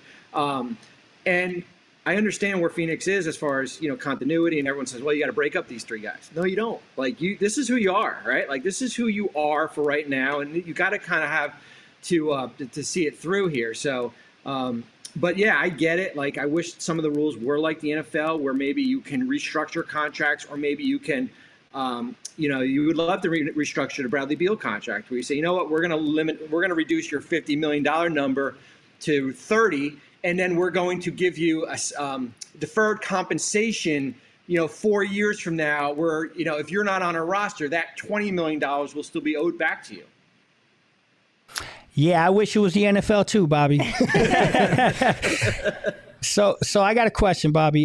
And I understand where Phoenix is as far as, continuity, and everyone says, well, you got to break up these 3 guys. No, you don't. This is who you are, right? This is who you are for right now. And you got to kind of have to see it through here. So, but yeah, I get it. I wish some of the rules were like the NFL, where maybe you can restructure contracts, or maybe you can, you would love to restructure the Bradley Beal contract, where you say, you know what, we're going to reduce your $50 million number to 30, and then we're going to give you a deferred compensation, 4 years from now, where, if you're not on our roster, that $20 million will still be owed back to you. Yeah, I wish it was the NFL too, Bobby. So I got a question, Bobby.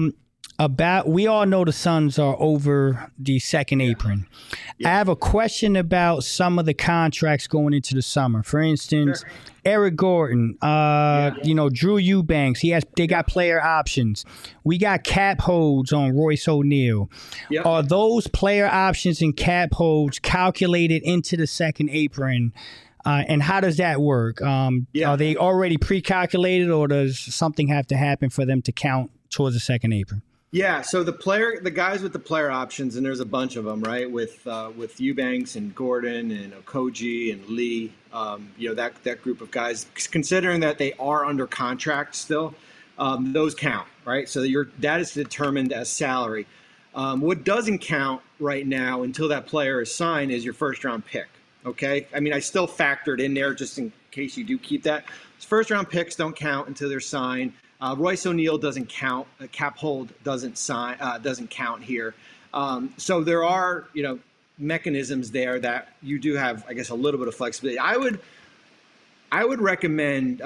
We all know the Suns are over the second apron. Yeah. I have a question about some of the contracts going into the summer. For instance, Eric Gordon, Drew Eubanks. They got player options. We got cap holds on Royce O'Neal. Yep. Are those player options and cap holds calculated into the second apron? And how does that work? Are they already pre-calculated, or does something have to happen for them to count towards the second apron? Yeah, so the guys with the player options, and there's a bunch of them, right? With Eubanks and Gordon and Okogie and Lee, that group of guys. Considering that they are under contract still, those count, right? So that is determined as salary. What doesn't count right now until that player is signed is your first round pick. Okay, I still factored in there just in case you do keep that. First round picks don't count until they're signed. Royce O'Neal doesn't count. A cap hold doesn't count here. So there are mechanisms there that you do have, I guess, a little bit of flexibility. I would recommend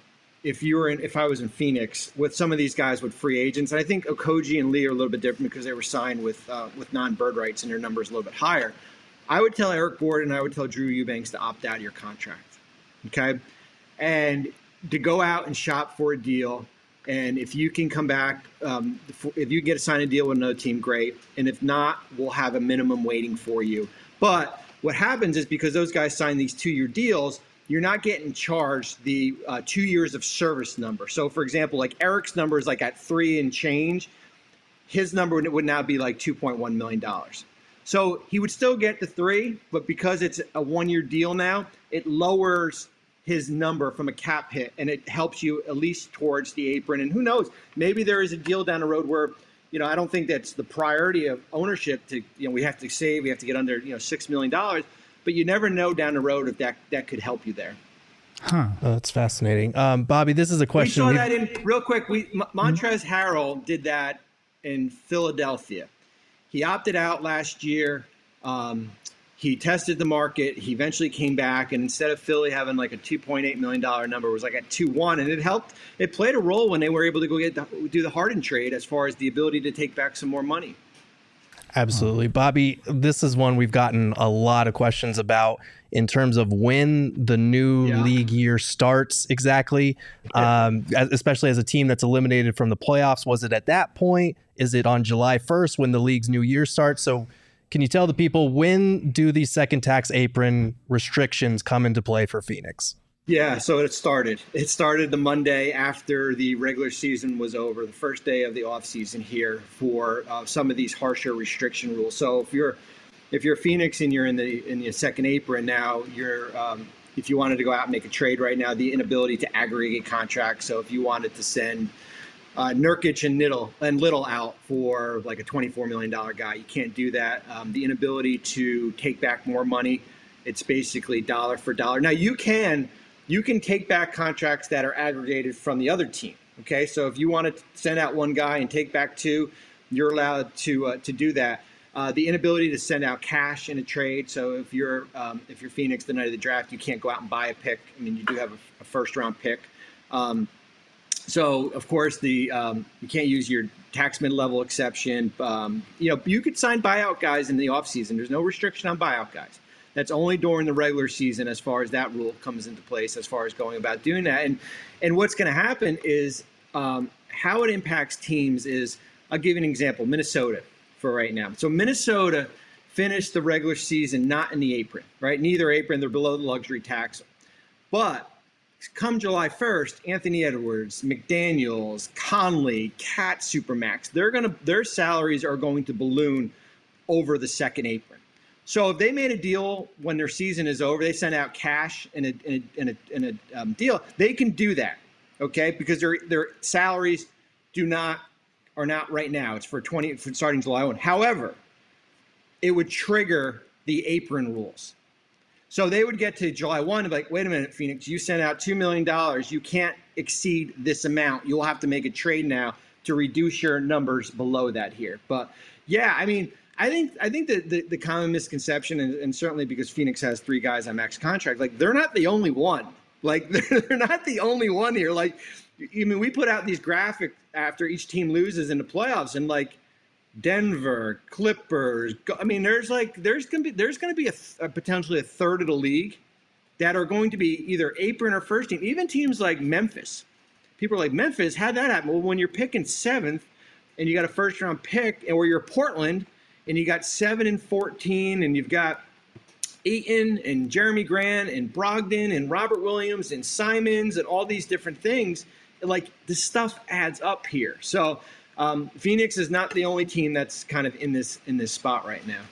if I was in Phoenix with some of these guys with free agents, and I think Okogie and Lee are a little bit different because they were signed with non-bird rights and their number is a little bit higher. I would tell Eric Gordon, I would tell Drew Eubanks to opt out of your contract, okay? And to go out and shop for a deal. And if you can come back, if you get to sign a deal with another team, great. And if not, we'll have a minimum waiting for you. But what happens is because those guys sign these 2-year deals, you're not getting charged the 2 years of service number. So, for example, Eric's number is at 3 and change. His number would now be $2.1 million. So he would still get the 3, but because it's a 1-year deal now, it lowers his number from a cap hit, and it helps you at least towards the apron. And who knows, maybe there is a deal down the road where, I don't think that's the priority of ownership to, we have to save, we have to get under, $6 million, but you never know down the road if that could help you there. Huh. Oh, that's fascinating. Bobby, this is a question. We saw that real quick. Montrezl Harrell did that in Philadelphia. He opted out last year. He tested the market. He eventually came back, and instead of Philly having like a $2.8 million number, it was like at 2.1, and it helped. It played a role when they were able to go do the Harden trade as far as the ability to take back some more money. Absolutely. Bobby, this is one we've gotten a lot of questions about in terms of when the new league year starts exactly, especially as a team that's eliminated from the playoffs. Was it at that point? Is it on July 1st when the league's new year starts? So can you tell the people, when do these second tax apron restrictions come into play for Phoenix? Yeah, so it started. It started the Monday after the regular season was over, the first day of the offseason here for some of these harsher restriction rules. So if you're Phoenix and you're in the second apron now, if you wanted to go out and make a trade right now, the inability to aggregate contracts. So if you wanted to send Nurkic and Little out for like a $24 million guy, you can't do that. The inability to take back more money, it's basically dollar for dollar. Now you can take back contracts that are aggregated from the other team. Okay, so if you want to send out one guy and take back two, you're allowed to do that. The inability to send out cash in a trade. So if you're Phoenix the night of the draft, you can't go out and buy a pick. I mean, you do have a first round pick. So of course you can't use your tax mid-level exception. You could sign buyout guys in the offseason. There's no restriction on buyout guys. That's only during the regular season as far as that rule comes into place, as far as going about doing that. And what's going to happen is how it impacts teams is, I'll give you an example, Minnesota for right now. So Minnesota finished the regular season not in the apron, right? Neither apron, they're below the luxury tax. But come July 1st, Anthony Edwards, McDaniels, Conley, Cat Supermax, their salaries are going to balloon over the second apron. So if they made a deal when their season is over, they send out cash in a deal, they can do that, okay? Because their salaries are not right now. It's for starting July 1. However, it would trigger the apron rules. So they would get to July 1 and be like, wait a minute, Phoenix, you sent out $2 million. You can't exceed this amount. You'll have to make a trade now to reduce your numbers below that here. But yeah, I mean, I think that the common misconception, and certainly because Phoenix has three guys on max contract, like they're not the only one. Like they're not the only one here. Like, I mean, we put out these graphics after each team loses in the playoffs, and like Denver, Clippers. I mean, there's going to be a potentially a third of the league that are going to be either apron or first team. Even teams like Memphis. People are like, Memphis, how'd that happen? Well, when you're picking seventh and you got a first round pick, and where you're Portland and you got 7 and 14, and you've got Ayton and Jeremy Grant and Brogdon and Robert Williams and Simons and all these different things, like the stuff adds up here. So Phoenix is not the only team that's kind of in this spot right now.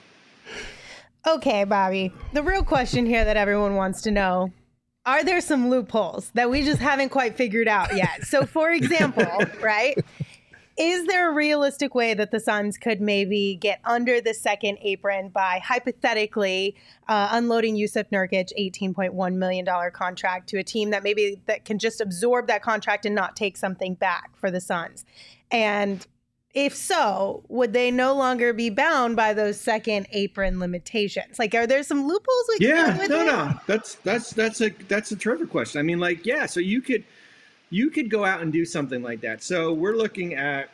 Okay, Bobby, the real question here that everyone wants to know, are there some loopholes that we just haven't quite figured out yet? So for example, right, is there a realistic way that the Suns could maybe get under the second apron by hypothetically unloading Yusuf Nurkic $18.1 million contract to a team that can just absorb that contract and not take something back for the Suns? And if so, would they no longer be bound by those second apron limitations? Like, are there some loopholes we can get with it? No. That's a terrific question. I mean, like, yeah, so you could go out and do something like that. So we're looking at,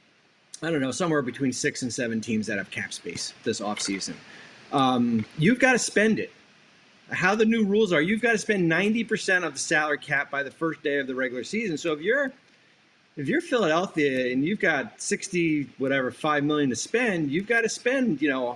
I don't know, somewhere between 6 and 7 teams that have cap space this offseason. You've got to spend it. How the new rules are, you've got to spend 90% of the salary cap by the first day of the regular season. So if you're Philadelphia and you've got $5 million to spend, you've got to spend,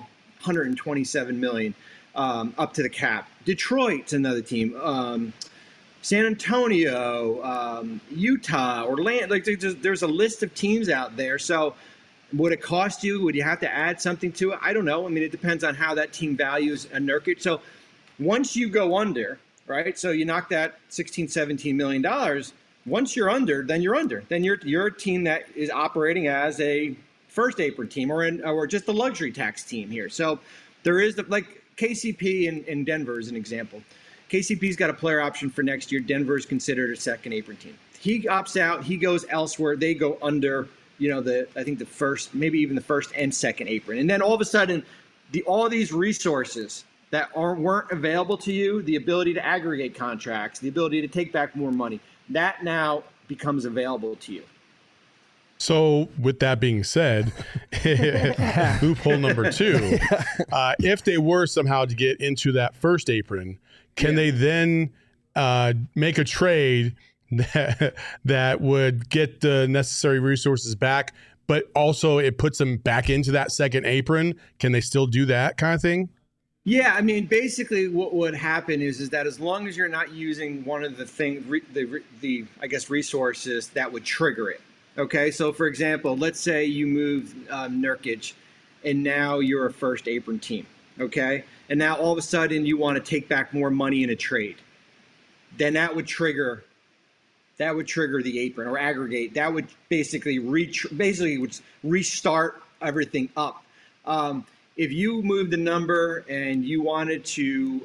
$127 million up to the cap. Detroit's another team. San Antonio, Utah, Orlando. Like there's a list of teams out there. So would it cost you? Would you have to add something to it? I don't know. I mean, it depends on how that team values a Nurkic. So once you go under, right? So you knock that $16, $17 million. Once you're under, then you're under. Then you're a team that is operating as a first apron team or just a luxury tax team here. So there is like KCP in Denver is an example. KCP's got a player option for next year. Denver is considered a second apron team. He opts out. He goes elsewhere. They go under I think the first, maybe even the first and second apron. And then all of a sudden, all these resources that weren't available to you, the ability to aggregate contracts, the ability to take back more money, that now becomes available to you. So with that being said, loophole number 2, if they were somehow to get into that first apron, can they then make a trade that would get the necessary resources back, but also it puts them back into that second apron? Can they still do that kind of thing? Yeah, I mean, basically what would happen is that as long as you're not using one of the things, the I guess resources that would trigger it. Okay, so for example, let's say you move Nurkic, and now you're a first apron team. Okay, and now all of a sudden you want to take back more money in a trade. Then that would trigger the apron or aggregate. That would basically would restart everything up. If you moved the number and you wanted to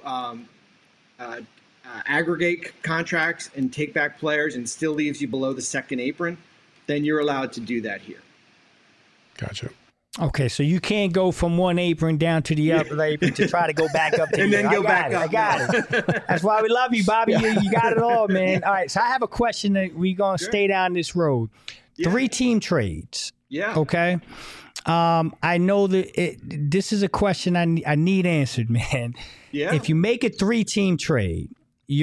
aggregate contracts and take back players and still leaves you below the second apron, then you're allowed to do that here. Gotcha. Okay, so you can't go from one apron down to the other apron to try to go back up to and then go back up. I got it. That's why we love you, Bobby. You got it all, man. All right, so I have a question that we're going to stay down this road. Yeah. 3-team trades. Yeah. Okay. I know that this is a question I need answered, man. Yeah. If you make a 3-team trade,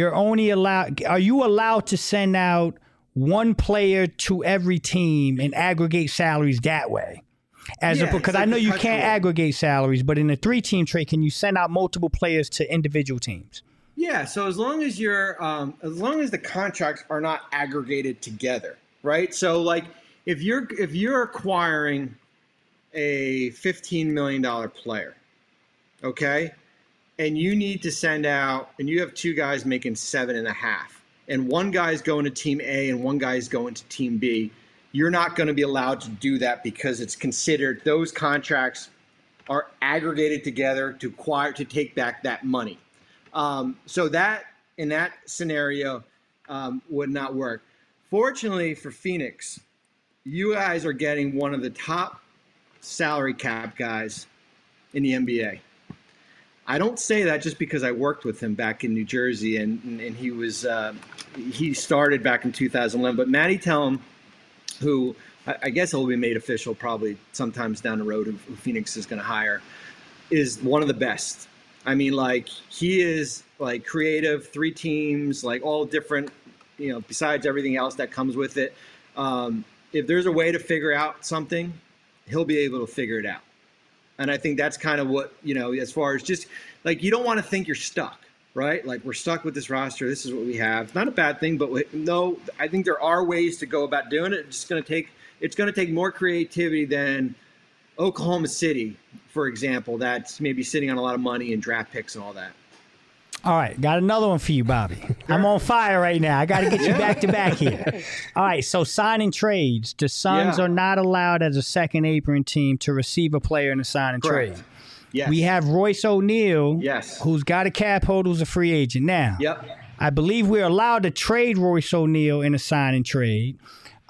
are you allowed to send out one player to every team and aggregate salaries that way? Because I know you can't aggregate salaries, but in a 3-team trade, can you send out multiple players to individual teams? Yeah. So as long as the contracts are not aggregated together, right? So like if you're acquiring a $15 million player, okay, and you need to send out, and you have 2 guys making 7.5, and one guy's going to team A and one guy's going to team B, you're not going to be allowed to do that because it's considered those contracts are aggregated together to take back that money. So that in that scenario would not work. Fortunately for Phoenix, you guys are getting one of the top salary cap guys in the NBA. I don't say that just because I worked with him back in New Jersey and he started back in 2011. But Matty Tellem, who I guess will be made official probably sometimes down the road, who Phoenix is going to hire, is one of the best. I mean, like, he is like creative, 3 teams, like all different, besides everything else that comes with it. If there's a way to figure out something, he'll be able to figure it out. And I think that's kind of what, as far as just like, you don't want to think you're stuck, right? Like, we're stuck with this roster. This is what we have. Not a bad thing, but no, I think there are ways to go about doing it. It's going to take more creativity than Oklahoma City, for example, that's maybe sitting on a lot of money and draft picks and all that. All right, got another one for you, Bobby. I'm on fire right now. I got to get you back to back here. All right, so signing trades. The Suns are not allowed as a second apron team to receive a player in a signing trade. Yes. We have Royce O'Neal, yes, who's got a cap hold, who's a free agent now. Yep. I believe we're allowed to trade Royce O'Neal in a signing trade.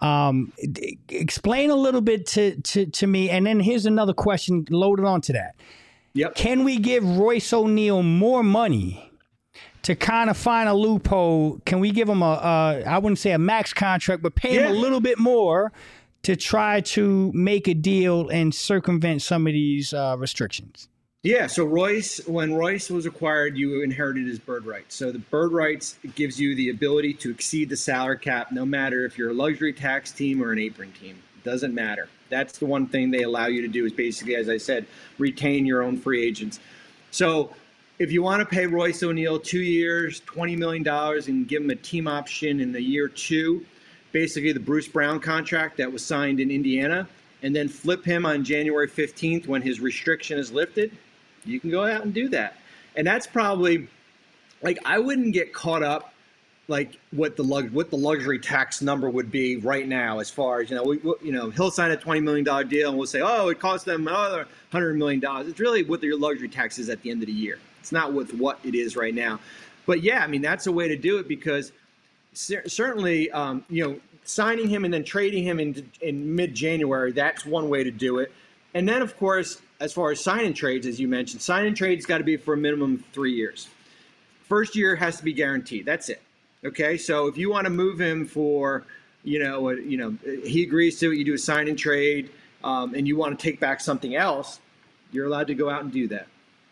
Explain a little bit to me, and then here's another question loaded onto that. Yep. Can we give Royce O'Neal more money to kind of find a loophole? Can we give him I wouldn't say a max contract, but pay him a little bit more to try to make a deal and circumvent some of these restrictions? Yeah, so when Royce was acquired, you inherited his bird rights. So the bird rights gives you the ability to exceed the salary cap, no matter if you're a luxury tax team or an apron team. It doesn't matter. That's the one thing they allow you to do is basically, as I said, retain your own free agents. So if you want to pay Royce O'Neal 2 years, $20 million, and give him a team option in the year 2, basically the Bruce Brown contract that was signed in Indiana, and then flip him on January 15th when his restriction is lifted, you can go out and do that. And that's probably, like, I wouldn't get caught up like what the luxury tax number would be right now, as far as, he'll sign a $20 million deal and we'll say, oh, it cost them another $100 million. It's really what your luxury tax is at the end of the year. It's not with what it is right now. But yeah, I mean, that's a way to do it because certainly, signing him and then trading him in mid-January, that's one way to do it. And then, of course, as far as sign and trades, as you mentioned, sign and trades got to be for a minimum of 3 years. First year has to be guaranteed. That's it. Okay, so if you want to move him for, he agrees to it, you do a sign and trade, and you want to take back something else, you're allowed to go out and do that.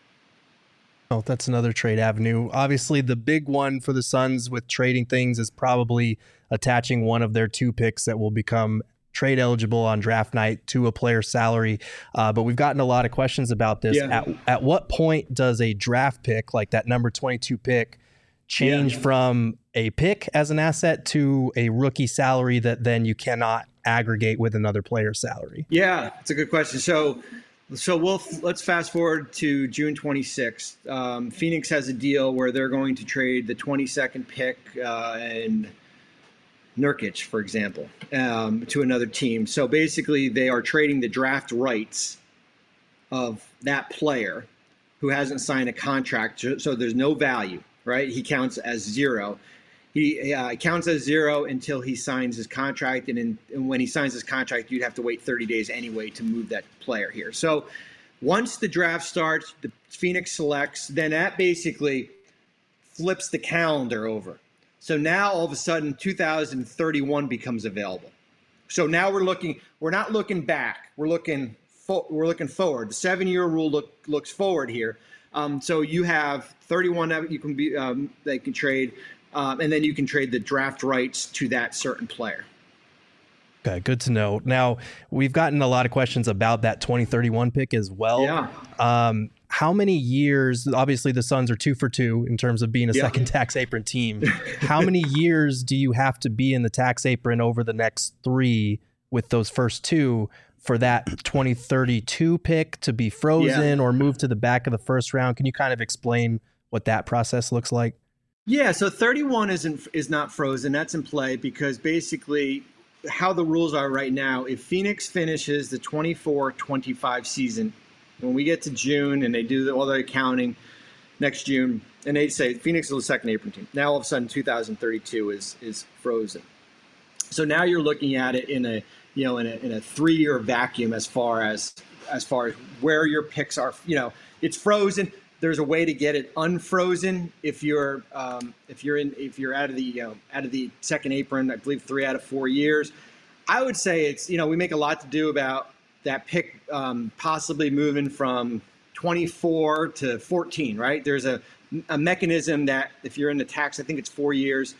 Oh, that's another trade avenue. Obviously, the big one for the Suns with trading things is probably attaching one of their 2 picks that will become trade eligible on draft night to a player's salary. But we've gotten a lot of questions about this. Yeah. At what point does a draft pick, like that number 22 pick, change from a pick as an asset to a rookie salary that then you cannot aggregate with another player's salary? Yeah, it's a good question. So let's fast forward to June 26th. Phoenix has a deal where they're going to trade the 22nd pick and Nurkic, for example, to another team. So basically, they are trading the draft rights of that player who hasn't signed a contract. So there's no value, right? He counts as zero. He counts as zero until he signs his contract. And when he signs his contract, you'd have to wait 30 days anyway to move that player here. So once the draft starts, the Phoenix selects, then that basically flips the calendar over. So now all of a sudden 2031 becomes available. So now we're not looking back. We're looking forward. The 7-year rule looks forward here. So you have 31 that you can be they can trade, and then you can trade the draft rights to that certain player. Okay, good to know. Now, we've gotten a lot of questions about that 2031 pick as well. Yeah. How many years, obviously the Suns are 2 for 2 in terms of being a second tax apron team. How many years do you have to be in the tax apron over the next 3 with those first 2 for that 2032 pick to be frozen or moved to the back of the first round? Can you kind of explain what that process looks like? Yeah, so 31 is not frozen. That's in play because basically how the rules are right now, if Phoenix finishes the 24-25 season, when we get to June and they do all their accounting next June, and they say Phoenix is the second apron team. Now all of a sudden 2032 is frozen. So now you're looking at it in a 3-year vacuum as far as where your picks are. It's frozen. There's a way to get it unfrozen if you're out of the second apron. I believe 3 out of 4 years. I would say it's we make a lot to do about that pick possibly moving from 24 to 14. Right? There's a mechanism that if you're in the tax, I think it's 4 years.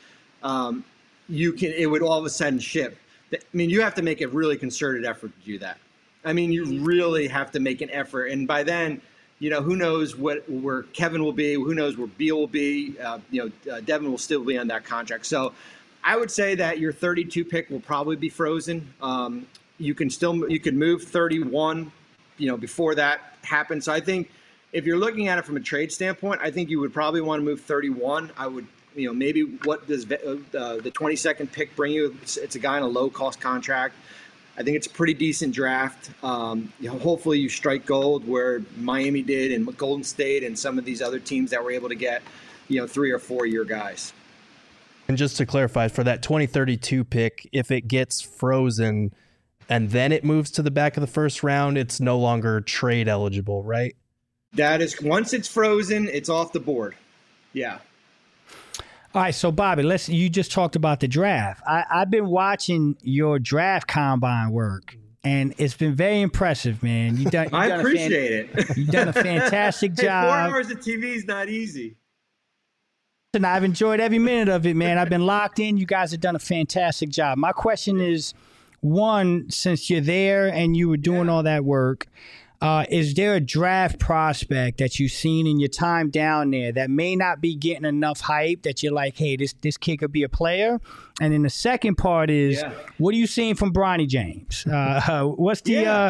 It would all of a sudden shift. I mean, you have to make a really concerted effort to do that. I mean, you really have to make an effort, and by then. Who knows where Kevin will be? Who knows where Beal will be? Devin will still be on that contract. So I would say that your 32 pick will probably be frozen. You can move 31, before that happens. So I think if you're looking at it from a trade standpoint, I think you would probably want to move 31. I would, maybe what does the 22nd pick bring you? It's a guy on a low cost contract. I think it's a pretty decent draft. Hopefully you strike gold where Miami did and Golden State and some of these other teams that were able to get, 3 or 4 year guys. And just to clarify, for that 2032 pick, if it gets frozen and then it moves to the back of the first round, it's no longer trade eligible, right? That is, once it's frozen, it's off the board. Yeah. All right, so Bobby, you just talked about the draft. I've been watching your draft combine work, and it's been very impressive, man. I appreciate it. You've done a fantastic job. 4 hours of TV is not easy. And I've enjoyed every minute of it, man. I've been locked in. You guys have done a fantastic job. My question is, one, since you're there and you were doing all that work, is there a draft prospect that you've seen in your time down there that may not be getting enough hype that you're like, hey, this kid could be a player? And then the second part is, what are you seeing from Bronny James? What's the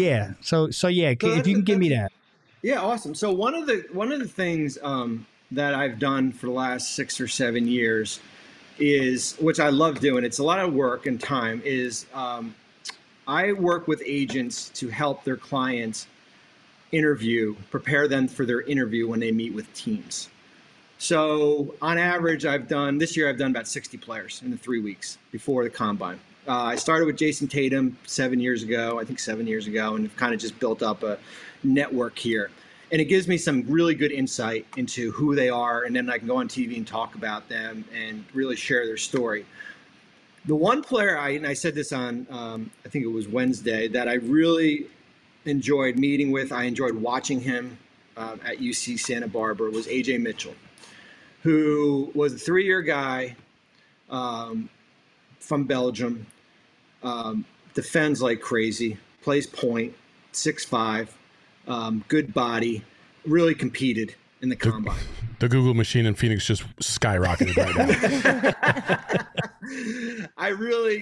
if you can give me that. Yeah, awesome. So one of the things that I've done for the last 6 or 7 years is, which I love doing, it's a lot of work and time, is I work with agents to help their clients prepare them for their interview when they meet with teams. So on average, this year I've done about 60 players in the 3 weeks before the combine. I started with Jason Tatum 7 years ago, and have kind of just built up a network here. And it gives me some really good insight into who they are, and then I can go on TV and talk about them and really share their story. The one player, and I said this on, I think it was Wednesday, that I really enjoyed meeting with, I enjoyed watching him at UC Santa Barbara, was AJ Mitchell, who was a 3-year guy from Belgium, defends like crazy, plays point, 6'5", good body, really competed in the combine. The Google machine in Phoenix just skyrocketed right now. I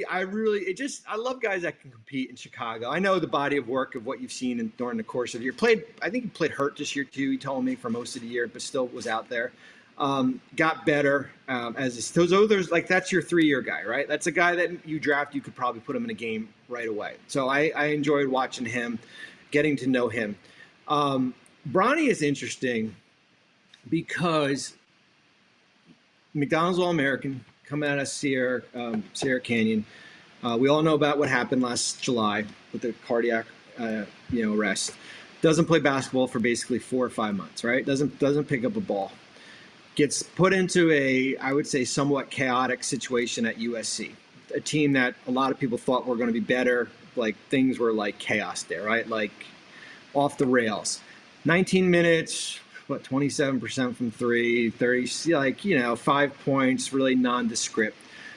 love guys that can compete in Chicago. I know the body of work of what you've seen during the course of the year. I think he played hurt this year too. He told me for most of the year, but still was out there. Got better that's your 3-year guy, right? That's a guy that you draft, you could probably put him in a game right away. So I enjoyed watching him, getting to know him. Bronny is interesting because McDonald's All-American, coming out of Sierra Canyon. We all know about what happened last July with the cardiac arrest. Doesn't play basketball for basically 4 or 5 months, right? Doesn't pick up a ball. Gets put into I would say, somewhat chaotic situation at USC, a team that a lot of people thought were going to be better. Like, things were like chaos there, right? Like, off the rails. 19 minutes, 27% from 3, 30, 5 points, really nondescript.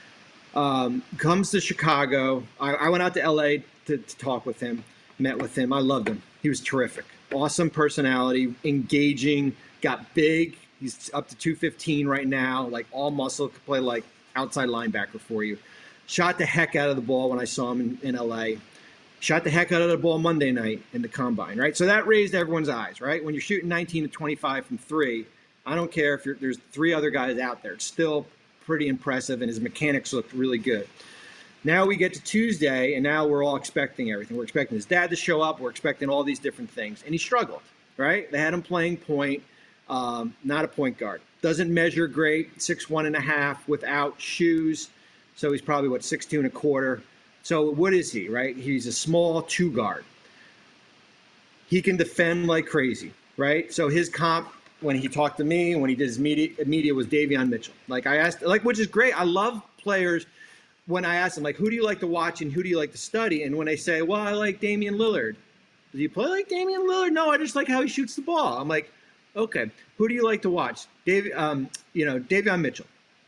Comes to Chicago. I went out to LA to talk with him, met with him. I loved him. He was terrific. Awesome personality, engaging, got big. He's up to 215 right now, like all muscle, could play like outside linebacker for you. Shot the heck out of the ball when I saw him in LA. Shot the heck out of the ball Monday night in the combine, right? So that raised everyone's eyes, right? When you're shooting 19 to 25 from 3, I don't care if there's 3 other guys out there. It's still pretty impressive, and his mechanics looked really good. Now we get to Tuesday, and now we're all expecting everything. We're expecting his dad to show up. We're expecting all these different things. And he struggled, right? They had him playing point, not a point guard. Doesn't measure great, 6'1.5" without shoes. So he's probably, 6'2 1/4. So what is he, right? He's a small 2 guard. He can defend like crazy, right? So his comp, when he talked to me, when he did his media was Davion Mitchell. Like, I asked, which is great. I love players when I ask them, who do you like to watch and who do you like to study? And when they say, well, I like Damian Lillard. Do you play like Damian Lillard? No, I just like how he shoots the ball. I'm like, okay, who do you like to watch? Davion Mitchell.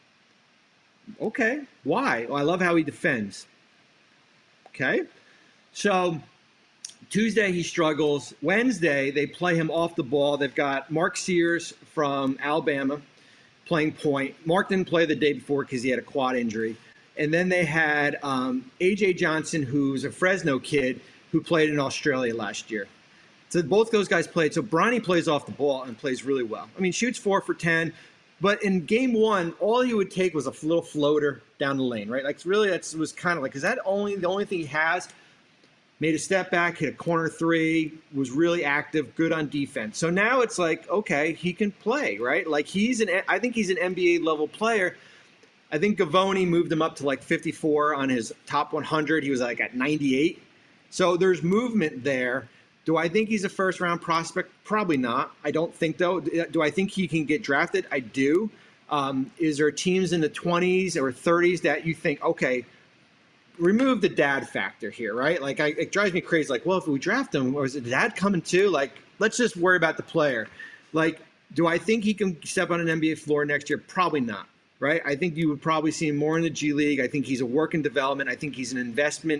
Okay, why? Well, I love how he defends. Okay, so Tuesday he struggles. Wednesday they play him off the ball. They've got Mark Sears from Alabama playing point. Mark didn't play the day before because he had a quad injury. And then they had A.J. Johnson, who's a Fresno kid who played in Australia last year. So both those guys played. So Bronny plays off the ball and plays really well. I mean, shoots 4 for 10. But in game 1, all he would take was a little floater down the lane, right? Like, really, that was kind of like, is that the only thing he has? Made a step back, hit a corner 3, was really active, good on defense. So now it's like, okay, he can play, right? Like, I think he's an NBA level player. I think Gavoni moved him up to 54 on his top 100. He was at 98. So there's movement there. Do I think he's a first-round prospect? Probably not. I don't think, though. Do I think he can get drafted? I do. Is there teams in the 20s or 30s that you think, okay, remove the dad factor here, right? It drives me crazy. If we draft him, or is the dad coming too? Let's just worry about the player. Do I think he can step on an NBA floor next year? Probably not, right? I think you would probably see him more in the G League. I think he's a work in development. I think he's an investment,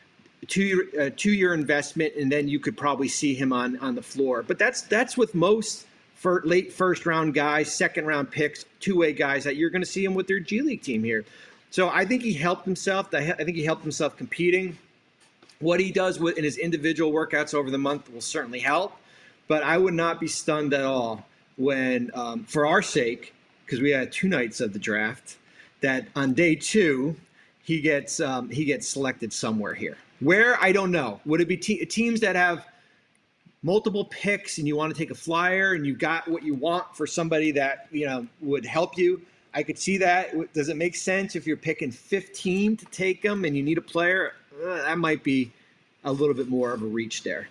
two-year investment, and then you could probably see him on the floor. But that's with most late first-round guys, second-round picks, two-way guys that you're going to see him with their G League team here. So I think he helped himself. I think he helped himself competing. What he does in his individual workouts over the month will certainly help. But I would not be stunned at all when, for our sake, because we had 2 nights of the draft, that on day 2 he gets selected somewhere here. Where, I don't know. Would it be teams that have multiple picks and you want to take a flyer and you got what you want for somebody that, would help you, I could see that. Does it make sense if you're picking 15 to take them and you need a player? That might be a little bit more of a reach there.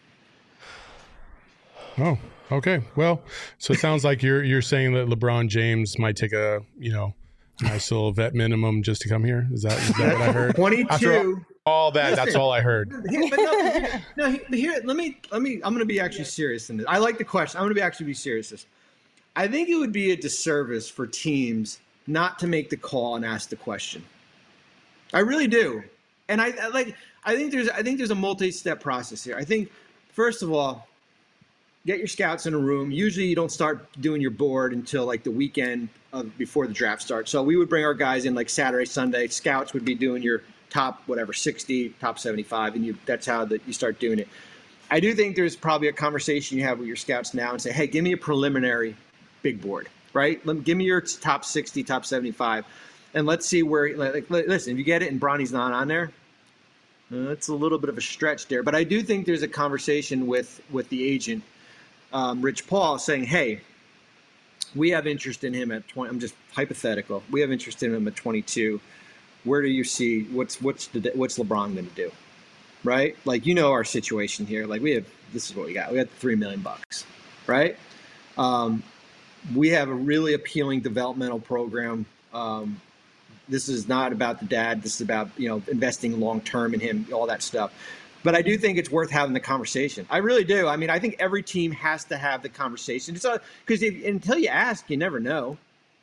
Oh, okay. Well, so it sounds like you're saying that LeBron James might take a, nice little vet minimum just to come here. Is that what I heard? 22. All that. Listen, that's all I heard. Here, let me. I'm going to be actually serious in this. I like the question. I'm going to actually be serious. I think it would be a disservice for teams not to make the call and ask the question. I really do. And I think there's a multi-step process here. I think, first of all, get your scouts in a room. Usually you don't start doing your board until like the weekend before the draft starts. So we would bring our guys in like Saturday, Sunday. Scouts would be doing your top 60, top 75, and that's how you start doing it. I do think there's probably a conversation you have with your scouts now and say, hey, give me a preliminary big board, right? Give me your top 60, top 75, and let's see where. Listen, if you get it and Bronny's not on there, it's a little bit of a stretch there. But I do think there's a conversation with the agent. Rich Paul saying, hey, we have interest in him at 20. I'm just hypothetical. We have interest in him at 22. Where do you see what's LeBron going to do? Right? Like, our situation here. Like this is what we got. We got $3 million, right? We have a really appealing developmental program. This is not about the dad. This is about, investing long-term in him, all that stuff. But I do think it's worth having the conversation. I really do. I mean, I think every team has to have the conversation. Because until you ask, you never know.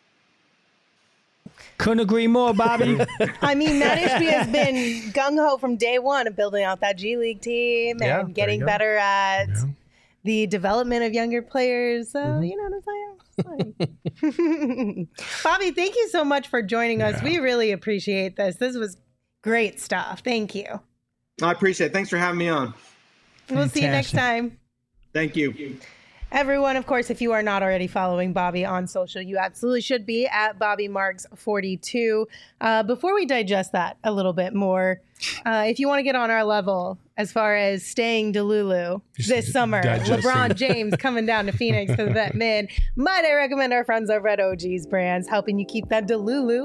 Couldn't agree more, Bobby. I mean, Matt Ishbia has been gung-ho from day one of building out that G League team and getting better at the development of younger players. So, you know what I'm saying? Bobby, thank you so much for joining us. We really appreciate this. This was great stuff. Thank you. I appreciate it. Thanks for having me on. We'll see you next time. Thank you. Everyone, of course, if you are not already following Bobby on social, you absolutely should be at BobbyMarks42. Before we digest that a little bit more, if you want to get on our level as far as staying Delulu this summer, LeBron James coming down to Phoenix for the Vet Min, might I recommend our friends over at OG's Brands, helping you keep that Delulu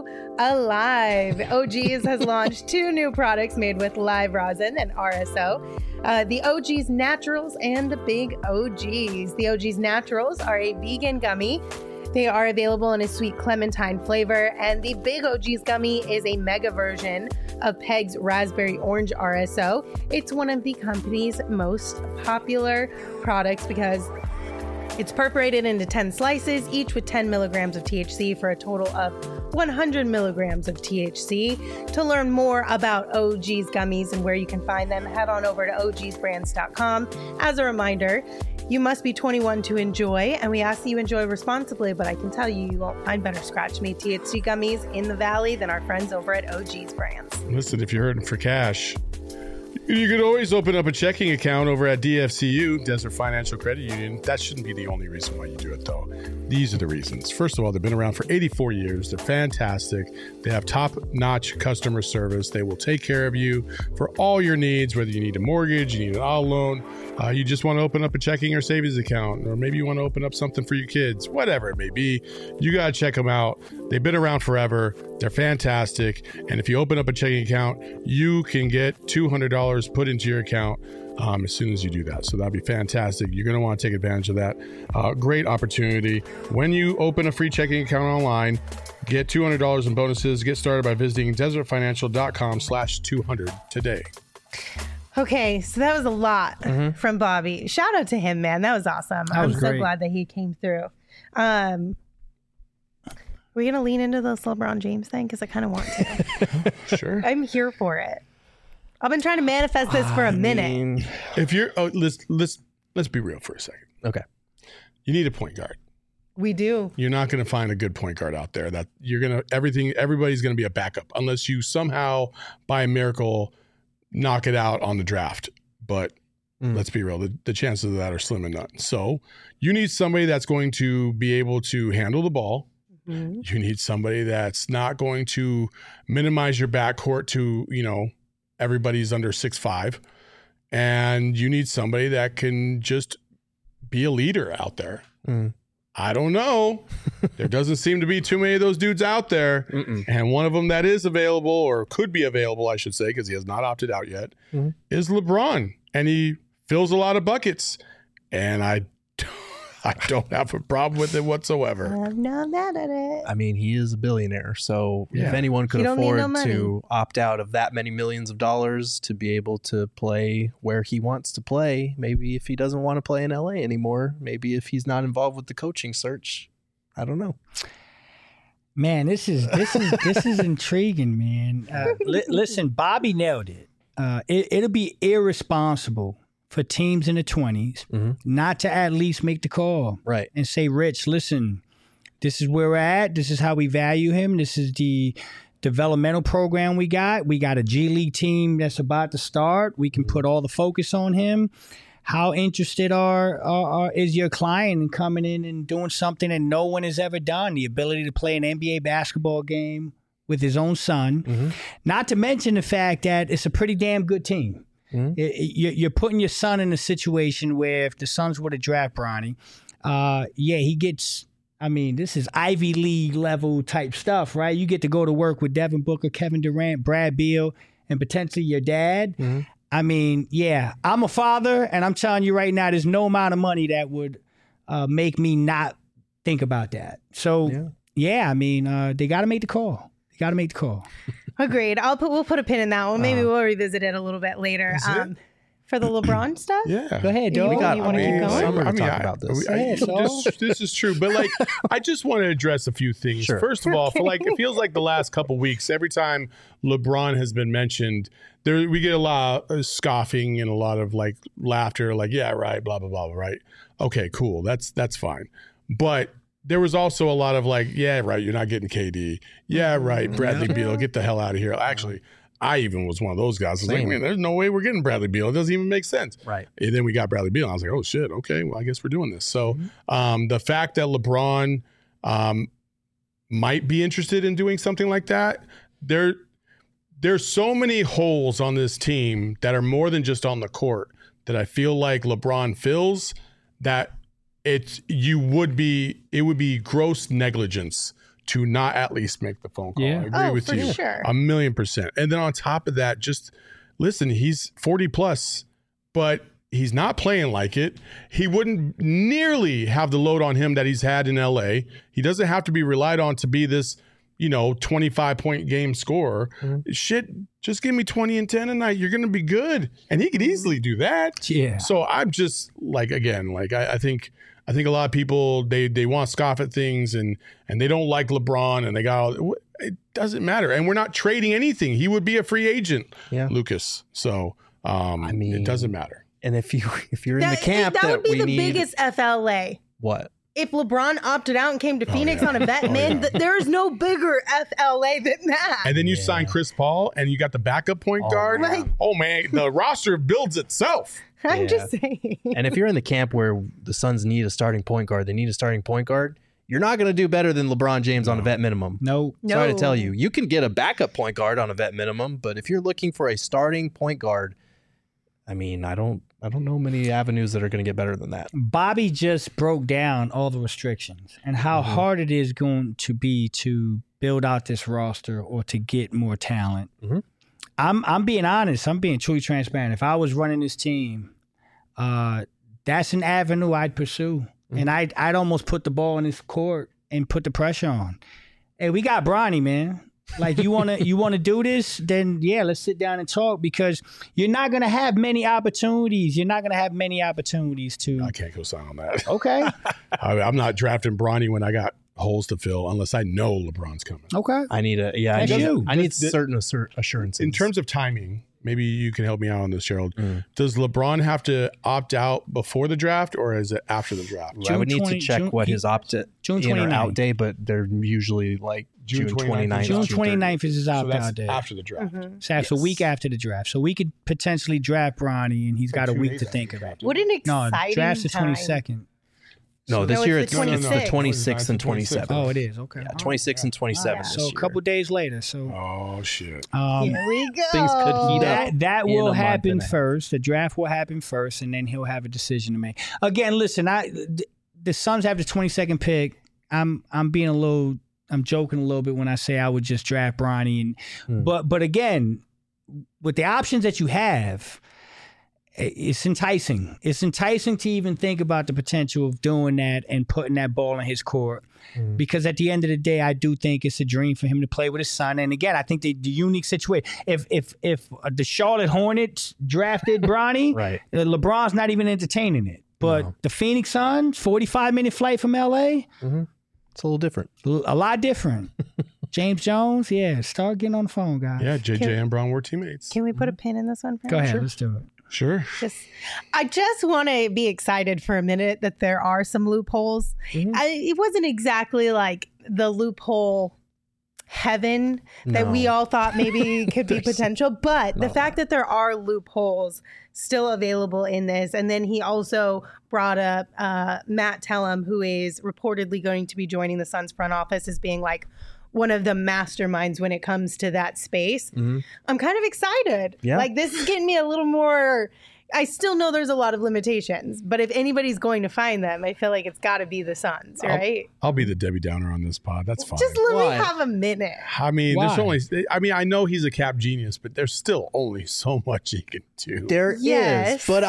alive. OG's has launched 2 new products made with live rosin and RSO. The OG's Naturals and the Big OG's. The OG's Naturals are a vegan gummy. They are available in a sweet clementine flavor, and the Big OG's gummy is a mega version of Peg's Raspberry Orange RSO. It's one of the company's most popular products because it's perforated into 10 slices, each with 10 milligrams of THC for a total of 100 milligrams of THC. To learn more about OG's gummies and where you can find them, head on over to ogsbrands.com. As a reminder, you must be 21 to enjoy, and we ask that you enjoy responsibly, but I can tell you, you won't find better scratch-made THC gummies in the Valley than our friends over at OG's Brands. Listen, if you're hurting for cash, you could always open up a checking account over at DFCU, Desert Financial Credit Union. That shouldn't be the only reason why you do it, though. These are the reasons. First of all, they've been around for 84 years. They're fantastic. They have top-notch customer service. They will take care of you for all your needs, whether you need a mortgage, you need an auto loan, you just want to open up a checking or savings account, or maybe you want to open up something for your kids, whatever it may be. You got to check them out. They've been around forever. They're fantastic. And if you open up a checking account, you can get $200 put into your account as soon as you do that. So that'd be fantastic. You're going to want to take advantage of that. Great opportunity. When you open a free checking account online, get $200 in bonuses. Get started by visiting desertfinancial.com/200 today. Okay, so that was a lot from Bobby. Shout out to him, man. That was awesome. I'm so glad that he came through. We're going to lean into this LeBron James thing because I kind of want to. Sure. I'm here for it. I've been trying to manifest this for a minute. If you're, let's be real for a second. Okay. You need a point guard. We do. You're not going to find a good point guard out there that everybody's going to be a backup unless you somehow, by a miracle, knock it out on the draft. But let's be real, the chances of that are slim and none. So you need somebody that's going to be able to handle the ball. You need somebody that's not going to minimize your backcourt to, everybody's under 6'5", and you need somebody that can just be a leader out there. I don't know. There doesn't seem to be too many of those dudes out there. And one of them that is available, or could be available, I should say, because he has not opted out yet, is LeBron. And he fills a lot of buckets. And I don't have a problem with it whatsoever. I'm not mad at it. I mean, he is a billionaire, so if anyone could You don't need afford no to opt out of that many millions of dollars to be able to play where he wants to play, maybe if he doesn't want to play in LA anymore, maybe if he's not involved with the coaching search, I don't know. Man, this is intriguing, man. Listen, Bobby nailed it. It'll be irresponsible for teams in the 20s not to at least make the call, right? And say, Rich, listen, this is where we're at. This is how we value him. This is the developmental program we got. We got a G League team that's about to start. We can put all the focus on him. How interested is your client in coming in and doing something that no one has ever done? The ability to play an NBA basketball game with his own son. Not to mention the fact that it's a pretty damn good team. You're putting your son in a situation where if the Suns were to draft Bronny, he gets, I mean, this is Ivy League level type stuff, right? You get to go to work with Devin Booker, Kevin Durant, Brad Beal, and potentially your dad. I mean, I'm a father, and I'm telling you right now, there's no amount of money that would make me not think about that. So, I mean, they got to make the call. Agreed. We'll put a pin in that one. Maybe we'll revisit it a little bit later. For the LeBron stuff? Yeah. Go ahead, dog. You want to keep going? Summer to talk about this. This is true, but like, I just want to address a few things. Sure. First of all, for like, it feels like the last couple weeks, every time LeBron has been mentioned, we get a lot of scoffing and a lot of like laughter, like, yeah, right, blah, blah, blah, right? Okay, cool. That's fine. But there was also a lot of like, yeah, right, you're not getting KD. Yeah, right, Bradley Beal, get the hell out of here. Actually, I even was one of those guys. I was like, man, there's no way we're getting Bradley Beal. It doesn't even make sense. Right. And then we got Bradley Beal. And I was like, oh, shit, okay, well, I guess we're doing this. So the fact that LeBron might be interested in doing something like that, there's so many holes on this team that are more than just on the court that I feel like LeBron fills that it would be gross negligence to not at least make the phone call. Yeah. I agree with you. Sure. 1,000,000%. And then on top of that, just listen, he's 40 plus, but he's not playing like it. He wouldn't nearly have the load on him that he's had in LA. He doesn't have to be relied on to be this, 25-point game scorer. Shit, just give me 20 and 10 a night. You're going to be good. And he could easily do that. Yeah. So I'm just like, again, like I think a lot of people, they want to scoff at things and they don't like LeBron and they got all, it doesn't matter. And we're not trading anything. He would be a free agent, Lucas. So I mean, it doesn't matter. And if you're in the camp that would be we the need, biggest FLA. what? If LeBron opted out and came to Phoenix on a vet min, there's no bigger FLA than that. And then you sign Chris Paul and you got the backup point guard. yeah. Oh, man, the roster builds itself. I'm just saying. And if you're in the camp where the Suns need a starting point guard, you're not going to do better than LeBron James on a vet minimum. No. Sorry to tell you. You can get a backup point guard on a vet minimum, but if you're looking for a starting point guard, I mean, I don't know many avenues that are going to get better than that. Bobby just broke down all the restrictions and how hard it is going to be to build out this roster or to get more talent. I'm being honest. I'm being truly transparent. If I was running this team, that's an avenue I'd pursue. And I'd almost put the ball in his court and put the pressure on. Hey, we got Bronny, man. Like, you wanna do this? Then let's sit down and talk, because you're not gonna have many opportunities. You're not gonna have many opportunities to. I can't go sign on that. Okay. I'm not drafting Bronny when I got holes to fill unless I know LeBron's coming. Okay. I need certain assurances. In terms of timing, maybe you can help me out on this, Gerald. Does LeBron have to opt out before the draft, or is it after the draft? I would need to check what his June in or out day, but they're usually like June 29th. June 29th is his opt-out that's day. after the draft. So that's a week after the draft. So we could potentially draft Bronny, and he's got a week to think about it. What an exciting No, draft's the time. 22nd. No, this No, year it's it's the the 26th and 27th. Oh, it is. Okay. Yeah, 26 and 27 this So a year. couple days later. So Oh shit. Here we go. Things could heat up. that in will a month happen and a half. first. The draft will happen first, and then he'll have a decision to make. Again, listen, the Suns have the 22nd pick. I'm joking a little bit when I say I would just draft Bronny, but again, with the options that you have, it's enticing. It's enticing to even think about the potential of doing that and putting that ball in his court. Because at the end of the day, I do think it's a dream for him to play with his son. And again, I think the unique situation. If the Charlotte Hornets drafted Bronny, Right. LeBron's not even entertaining it. But the Phoenix Suns, 45-minute flight from LA, It's a little different. a lot different. James Jones, start getting on the phone, guys. Yeah, JJ and Brown were teammates. Can we put a pin in this one? Go ahead, let's do it. Sure. I just want to be excited for a minute that there are some loopholes. It wasn't exactly like the loophole heaven that we all thought maybe could be potential, but the fact that there are loopholes still available in this. And then he also brought up Matt Tellem, who is reportedly going to be joining the Suns front office as being like one of the masterminds when it comes to that space. I'm kind of excited. Yeah. Like, this is getting me a little more. I still know there's a lot of limitations, but if anybody's going to find them, I feel like it's got to be the Suns, right? I'll be the Debbie Downer on this pod. That's fine. Just let Why? me have a minute. I mean, there's Why? only. I mean, I know he's a cap genius, but there's still only so much he can do. There is, Yes. but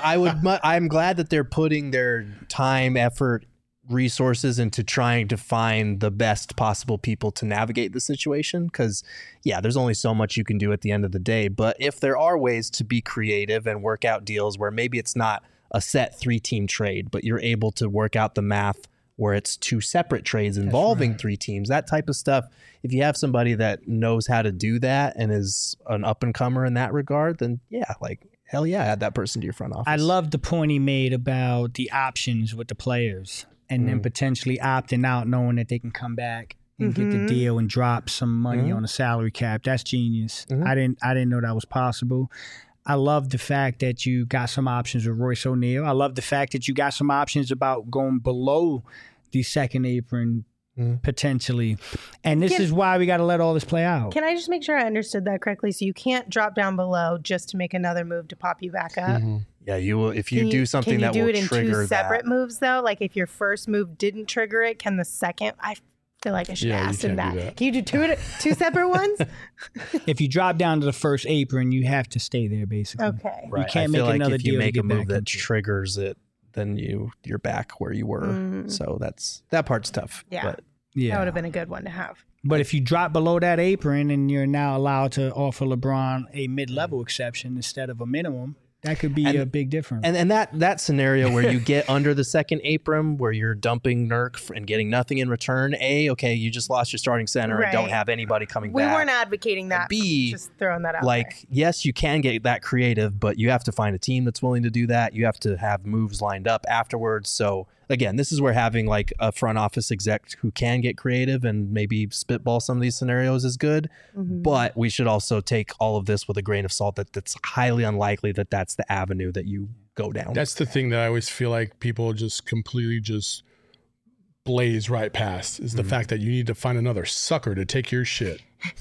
I'm glad that they're putting their time, effort, resources into trying to find the best possible people to navigate the situation. Because, there's only so much you can do at the end of the day. But if there are ways to be creative and work out deals where maybe it's not a set 3-team trade, but you're able to work out the math where it's 2 separate trades involving 3 teams, that type of stuff. If you have somebody that knows how to do that and is an up and comer in that regard, then hell yeah, add that person to your front office. I love the point he made about the options with the players and then potentially opting out knowing that they can come back and get the deal and drop some money on the salary cap. That's genius. I didn't know that was possible. I love the fact that you got some options with Royce O'Neal. I love the fact that you got some options about going below the second apron potentially. And this is why we got to let all this play out. Can I just make sure I understood that correctly? So you can't drop down below just to make another move to pop you back up? Yeah, you will if you do something that will Can you do it in trigger 2 separate that. moves though? Like if your first move didn't trigger it, can the second? I feel like I should Yeah, you ask him can't do that. that. Can you do two separate ones? If you drop down to the first apron, you have to stay there basically. Okay. Right. can't I make feel like another if you deal to make get a move back that into it. triggers it, then you're back where you were. So that part's tough. Yeah. But That would have been a good one to have. But if you drop below that apron and you're now allowed to offer LeBron a mid-level exception instead of a minimum, that could be a big difference. And that scenario where you get under the second apron, where you're dumping Nurk and getting nothing in return. Okay, you just lost your starting center and don't Right. have anybody coming We back. weren't advocating that. B, just throwing that out like, there. yes, you can get that creative, but you have to find a team that's willing to do that. You have to have moves lined up afterwards. So again, this is where having like a front office exec who can get creative and maybe spitball some of these scenarios is good. But we should also take all of this with a grain of salt that's highly unlikely that that's the avenue that you go down. That's the thing that I always feel like people just completely just blaze right past is the fact that you need to find another sucker to take your shit.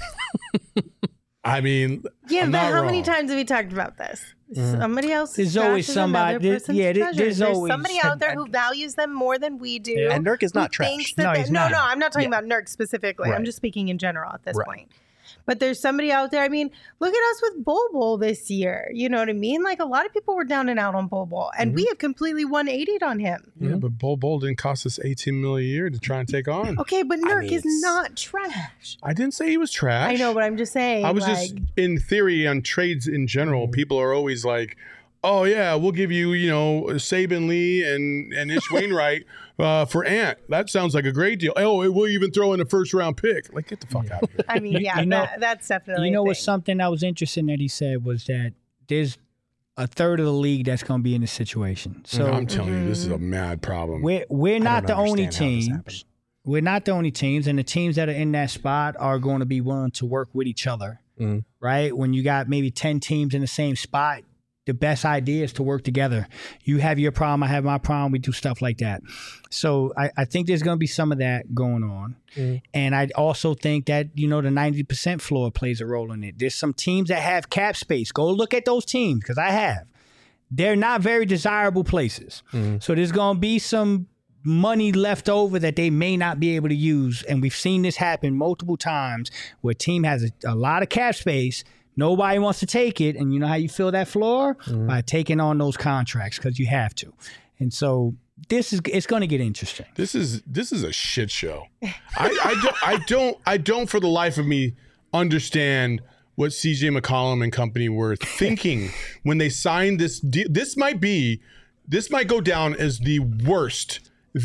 I mean, Yeah, I'm but not how many wrong. times have we talked about this? Somebody else. There's always somebody- there's always- somebody out there who values them more than we do. And Nurk is not who trash. thinks that No, they- he's no, not. no, I'm not talking about Nurk specifically. I'm Right. just speaking in general at this Right. point. But there's somebody out there. I mean, look at us with Bol Bol this year. You know what I mean? Like a lot of people were down and out on Bol Bol, and we have completely 180'd on him. Yeah, but Bol didn't cost us $18 million a year to try and take on. Okay, but Nurk mean, is it's- not trash. I didn't say he was trash. I know, but I'm just saying. I was like, just in theory on trades in general. People are always like, "Oh yeah, we'll give you, Saban Lee and Ish Wainwright for Ant. That sounds like a great deal. Oh, we'll even throw in a first round pick. Like, get the fuck out of here." I mean, yeah, you know- that's definitely. You know a what's thing. something that was interesting that he said was that there's a third of the league that's going to be in this situation. So I'm telling you, this is a mad problem. we're not the don't only understand how this happened. teams. We're not the only teams, and the teams that are in that spot are going to be willing to work with each other, right? When you got maybe 10 teams in the same spot, the best ideas to work together. You have your problem, I have my problem. We do stuff like that. So I think there's going to be some of that going on. And I also think that, the 90% floor plays a role in it. There's some teams that have cap space. Go look at those teams, because I have. They're not very desirable places. So there's going to be some money left over that they may not be able to use. And we've seen this happen multiple times where a team has a lot of cap space. Nobody wants to take it. And you know how you fill that floor? By taking on those contracts, because you have to. And so it's going to get interesting. This is a shit show. I don't for the life of me understand what CJ McCollum and company were thinking when they signed this deal. This might go down as the worst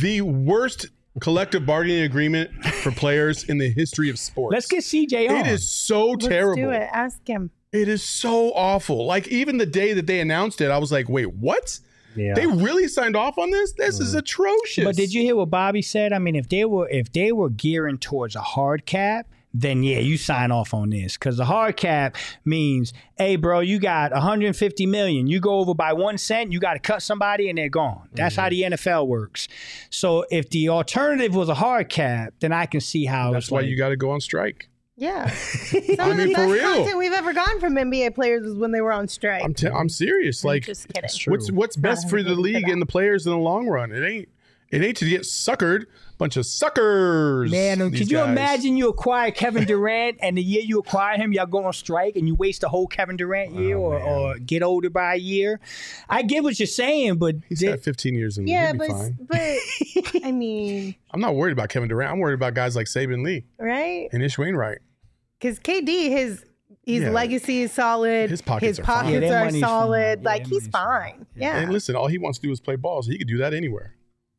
collective bargaining agreement for players in the history of sports. Let's get CJ on. It is so terrible. Let's do it. Ask him. It is so awful. Like, even the day that they announced it, I was like, wait, what? Yeah. They really signed off on this? This is atrocious. But did you hear what Bobby said? I mean, if they were gearing towards a hard cap, then yeah, you sign off on this, because the hard cap means, hey, bro, you got $150 million. You go over by 1 cent, you got to cut somebody, and they're gone. That's how the NFL works. So if the alternative was a hard cap, then I can see how. That's why you got to go on strike. Yeah. Some I mean, of the for best real. content we've ever gotten from NBA players is when they were on strike. I'm serious. Like, Just kidding. what's best for the league and the players in the long run? It ain't to get suckered. Bunch of suckers. Man, these could you guys. imagine you acquire Kevin Durant, and the year you acquire him, y'all go on strike and you waste the whole Kevin Durant year, or get older by a year? I get what you're saying, but He's got 15 years in the Yeah, league. He'll be but fine. I mean, I'm not worried about Kevin Durant. I'm worried about guys like Saban Lee right? and Ish Wainwright. Because KD, his Yeah. legacy is solid. His pockets are fine. Yeah, their are money's solid. fine. Yeah, Like, their he's money's fine. Yeah. And listen, all he wants to do is play ball, so he could do that anywhere.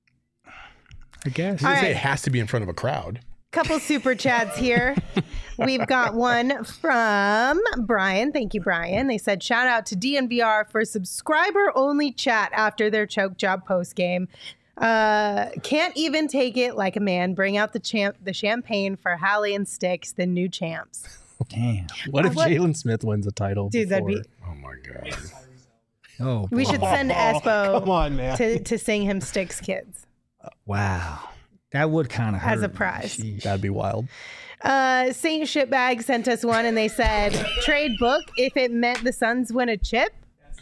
I guess. He All doesn't say right. it has to be in front of a crowd. Couple super chats here. We've got one from Brian. Thank you, Brian. They said, shout out to DNVR for subscriber only chat after their choke job post game. Can't even take it like a man. Bring out the champagne for Hallie and Sticks, the new champs. Damn. What if What- Jalen Smith wins a title? Dude, that'd be. Oh my God. Oh, We boy. should send Espo Come on, man. to sing him Sticks Kids Wow. That would kind of hurt. as a me. prize. Sheesh. That'd be wild. Saint Shitbag sent us one and they said, trade book if it meant the Suns win a chip.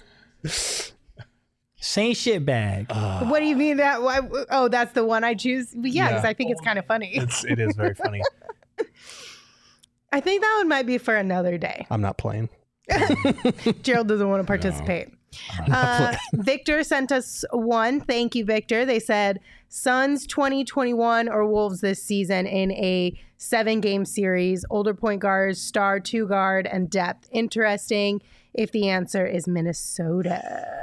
Same shit bag. What do you mean that? Why? Oh, that's the one I choose. Yeah, because I think it's kind of funny. It is very funny. I think that one might be for another day. I'm not playing. Gerald doesn't want to participate. Victor sent us one. Thank you, Victor. They said Suns 2021 or Wolves this season in a 7-game series. Older point guards, star 2 guard, and depth. Interesting if the answer is Minnesota. ...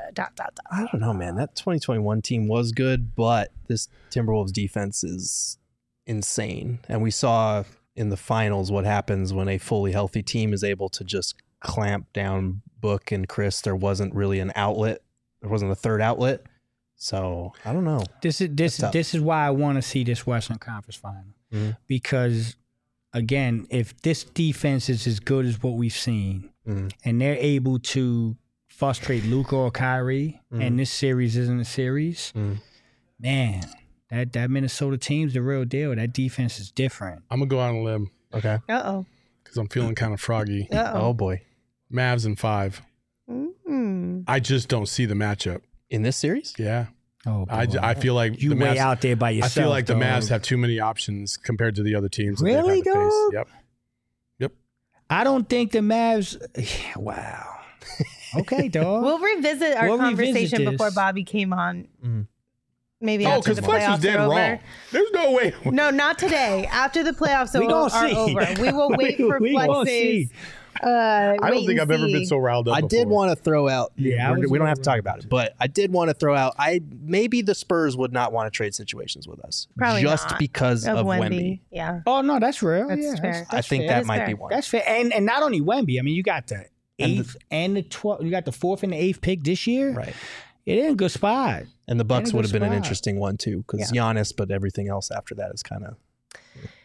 I don't know, man. That 2021 team was good, but this Timberwolves defense is insane. And we saw in the finals what happens when a fully healthy team is able to just clamp down Book and Chris. There wasn't really an outlet. There wasn't a third outlet. So I don't know. This tough. is why I want to see this Western Conference final. Mhm. Because again, if this defense is as good as what we've seen, Mhm. and they're able to frustrate Luka or Kyrie, and this series isn't a series, man, that Minnesota team's the real deal. That defense is different. I'm gonna go out on a limb Okay. Uh-oh. because I'm feeling kind of froggy. Oh Uh-oh. boy. Mavs in 5. Mm. I just don't see the matchup. In this series? Yeah, Oh, I boy. feel like you the way Mavs, out there by I yourself. feel like the dog. Mavs have too many options compared to the other teams. that they've Really, had to face. dog? Yep. I don't think the Mavs. Wow. Okay, dog. We'll revisit our We'll revisit conversation this. before Bobby came on. Mhm. Maybe Oh, after because the Flex was playoffs dead are over. wrong. There's no way. No, not today. After the playoffs We gonna are see. over, we will wait for We gonna Flex's. see. I don't think I've ever been so riled up. I did before. want to throw out. Yeah, I was we don't have really to talk about it, but I did want to throw out. Maybe the Spurs would not want to trade situations with us, Probably just not. because of Wemby. Wemby. Yeah, Oh no, that's real. That's yeah, fair. I think fair. that is might fair. be one. That's fair. And not only Wemby. I mean, you got the And the- 8th and the 12th. You got the 4th and the 8th pick this year. Right. It in a good spot. And the Bucks In a would good have been an spot. interesting one too, because Giannis, but everything else after that is kind of.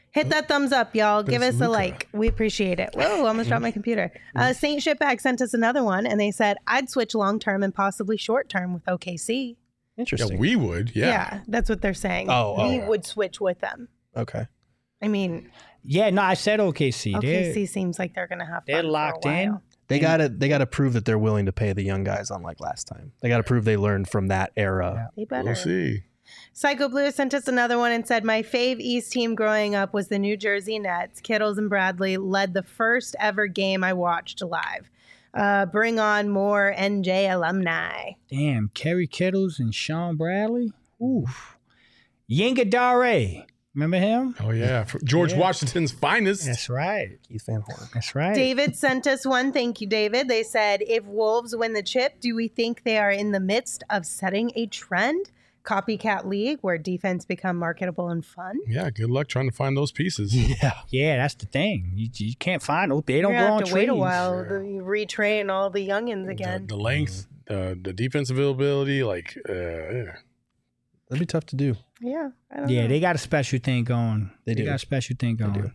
Hit that thumbs up, y'all. Give us a Luka. like. We appreciate it. Whoa, almost dropped my computer. Saint Shipbag sent us another one, and they said, I'd switch long-term and possibly short-term with OKC. Yeah, Interesting. we would. Yeah. Yeah, that's what they're saying. Oh, we would switch with them. Okay. I mean, Yeah, no, I said OKC. OKC seems like they're going to have They're fun for a locked in. while. They gotta prove that they're willing to pay the young guys unlike last time. They gotta prove they learned from that era. They better. We'll see. Psycho Blue sent us another one and said, my fave East team growing up was the New Jersey Nets. Kittles and Bradley led the first ever game I watched live. Bring on more NJ alumni. Damn, Kerry Kittles and Sean Bradley. Oof. Yinka Dare. Remember him? Oh yeah, George Washington's finest. That's right. Keith Van Horn. That's right. David sent us one. Thank you, David. They said, if Wolves win the chip, do we think they are in the midst of setting a trend? Copycat league where defense become marketable and fun? Yeah, good luck trying to find those pieces. Yeah, that's the thing. You can't find them. They don't You're grow gonna on have to trees. wait a while to retrain all the youngins again. The length, the defense availability, like, That'd be tough to do. Yeah, I don't Yeah, know. they got a special thing going. They do. got a special thing going. do.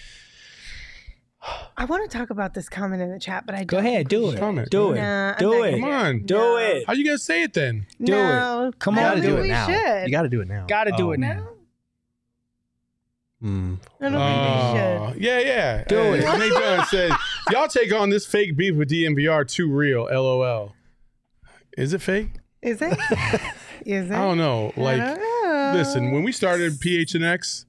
I want to talk about this comment in the chat, but I Go don't ahead, do it. Comment. Do it. Nah, I'm do not it. gonna come on. Do No. it. How you guys say it then? Do no, it. Come I You on, don't gotta think do it we now. should. You gotta do it now. Got to do it No, now. Mm. I don't think we should. Yeah. Do it. Nate Dunn said, y'all take on this fake beef with DMVR too real, LOL. Is it fake? Is it? Is it? I don't know. Like, I don't know. listen, when we started PHNX,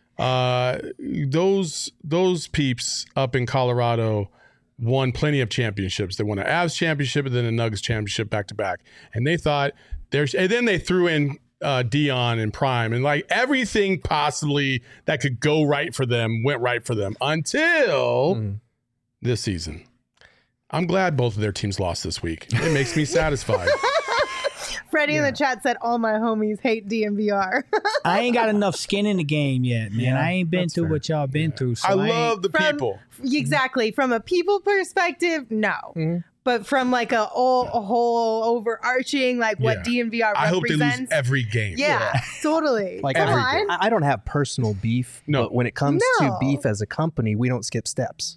those peeps up in Colorado won plenty of championships. They won an Avs championship and then a Nuggets championship back to back. And they thought and then they threw in Dion and Prime, and like everything possibly that could go right for them went right for them until this season. I'm glad both of their teams lost this week. It makes me satisfied. Freddie in the chat said all my homies hate DMVR. I ain't got enough skin in the game yet, man. Yeah, I ain't been that's through fair. what y'all been through. So I ain't- love the From- people. Exactly. From a people perspective, no. But from like a whole overarching, like what DMVR I hope they lose represents. every game. Yeah, totally. Like Come every on. I don't have personal beef, No. but when it comes No. to beef as a company, we don't skip steps.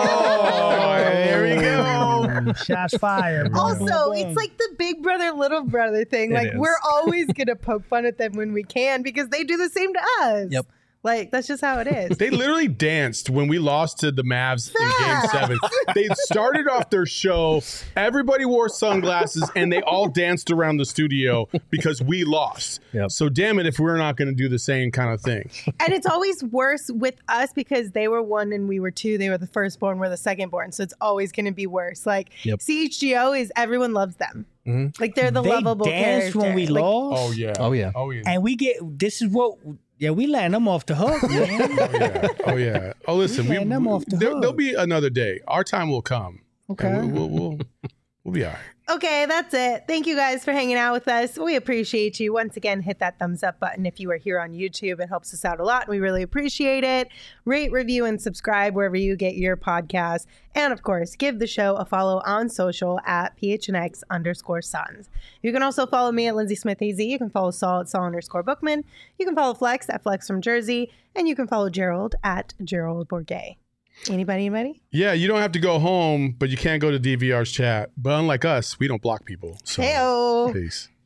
Oh, there we go. Shots fired. Boom, Also, boom, boom. it's like the big brother, little brother thing. It Like, is. we're always going to poke fun at them when we can because they do the same to us. Yep. Like, that's just how it is. They literally danced when we lost to the Mavs in Facts. Game 7. They started off their show. Everybody wore sunglasses, and they all danced around the studio because we lost. Yep. So damn it if we're not going to do the same kind of thing. And it's always worse with us because they were 1 and we were 2. They were the firstborn, we're the secondborn. So it's always going to be worse. Like, Yep. CHGO is everyone loves them. Mhm. Like, they're the they lovable danced when we character. Like, lost. Oh yeah. Oh, yeah. Oh yeah. And we get this is what we letting them off the hook, man. Oh yeah. Oh yeah. Oh listen, letting them off the there'll hook. be another day. Our time will come. Okay. And we'll be all right. Okay, that's it. Thank you guys for hanging out with us. We appreciate you. Once again, hit that thumbs up button if you are here on YouTube. It helps us out a lot, and we really appreciate it. Rate, review, and subscribe wherever you get your podcasts. And of course, give the show a follow on social at PHNX_Sons. You can also follow me at Lindsay Smith AZ. You can follow Saul at Saul_Bookman. You can follow Flex at Flex from Jersey. And you can follow Gerald at Gerald Bourget. Anybody? Yeah, you don't have to go home, but you can't go to DVR's chat. But unlike us, we don't block people. So Heyo. peace.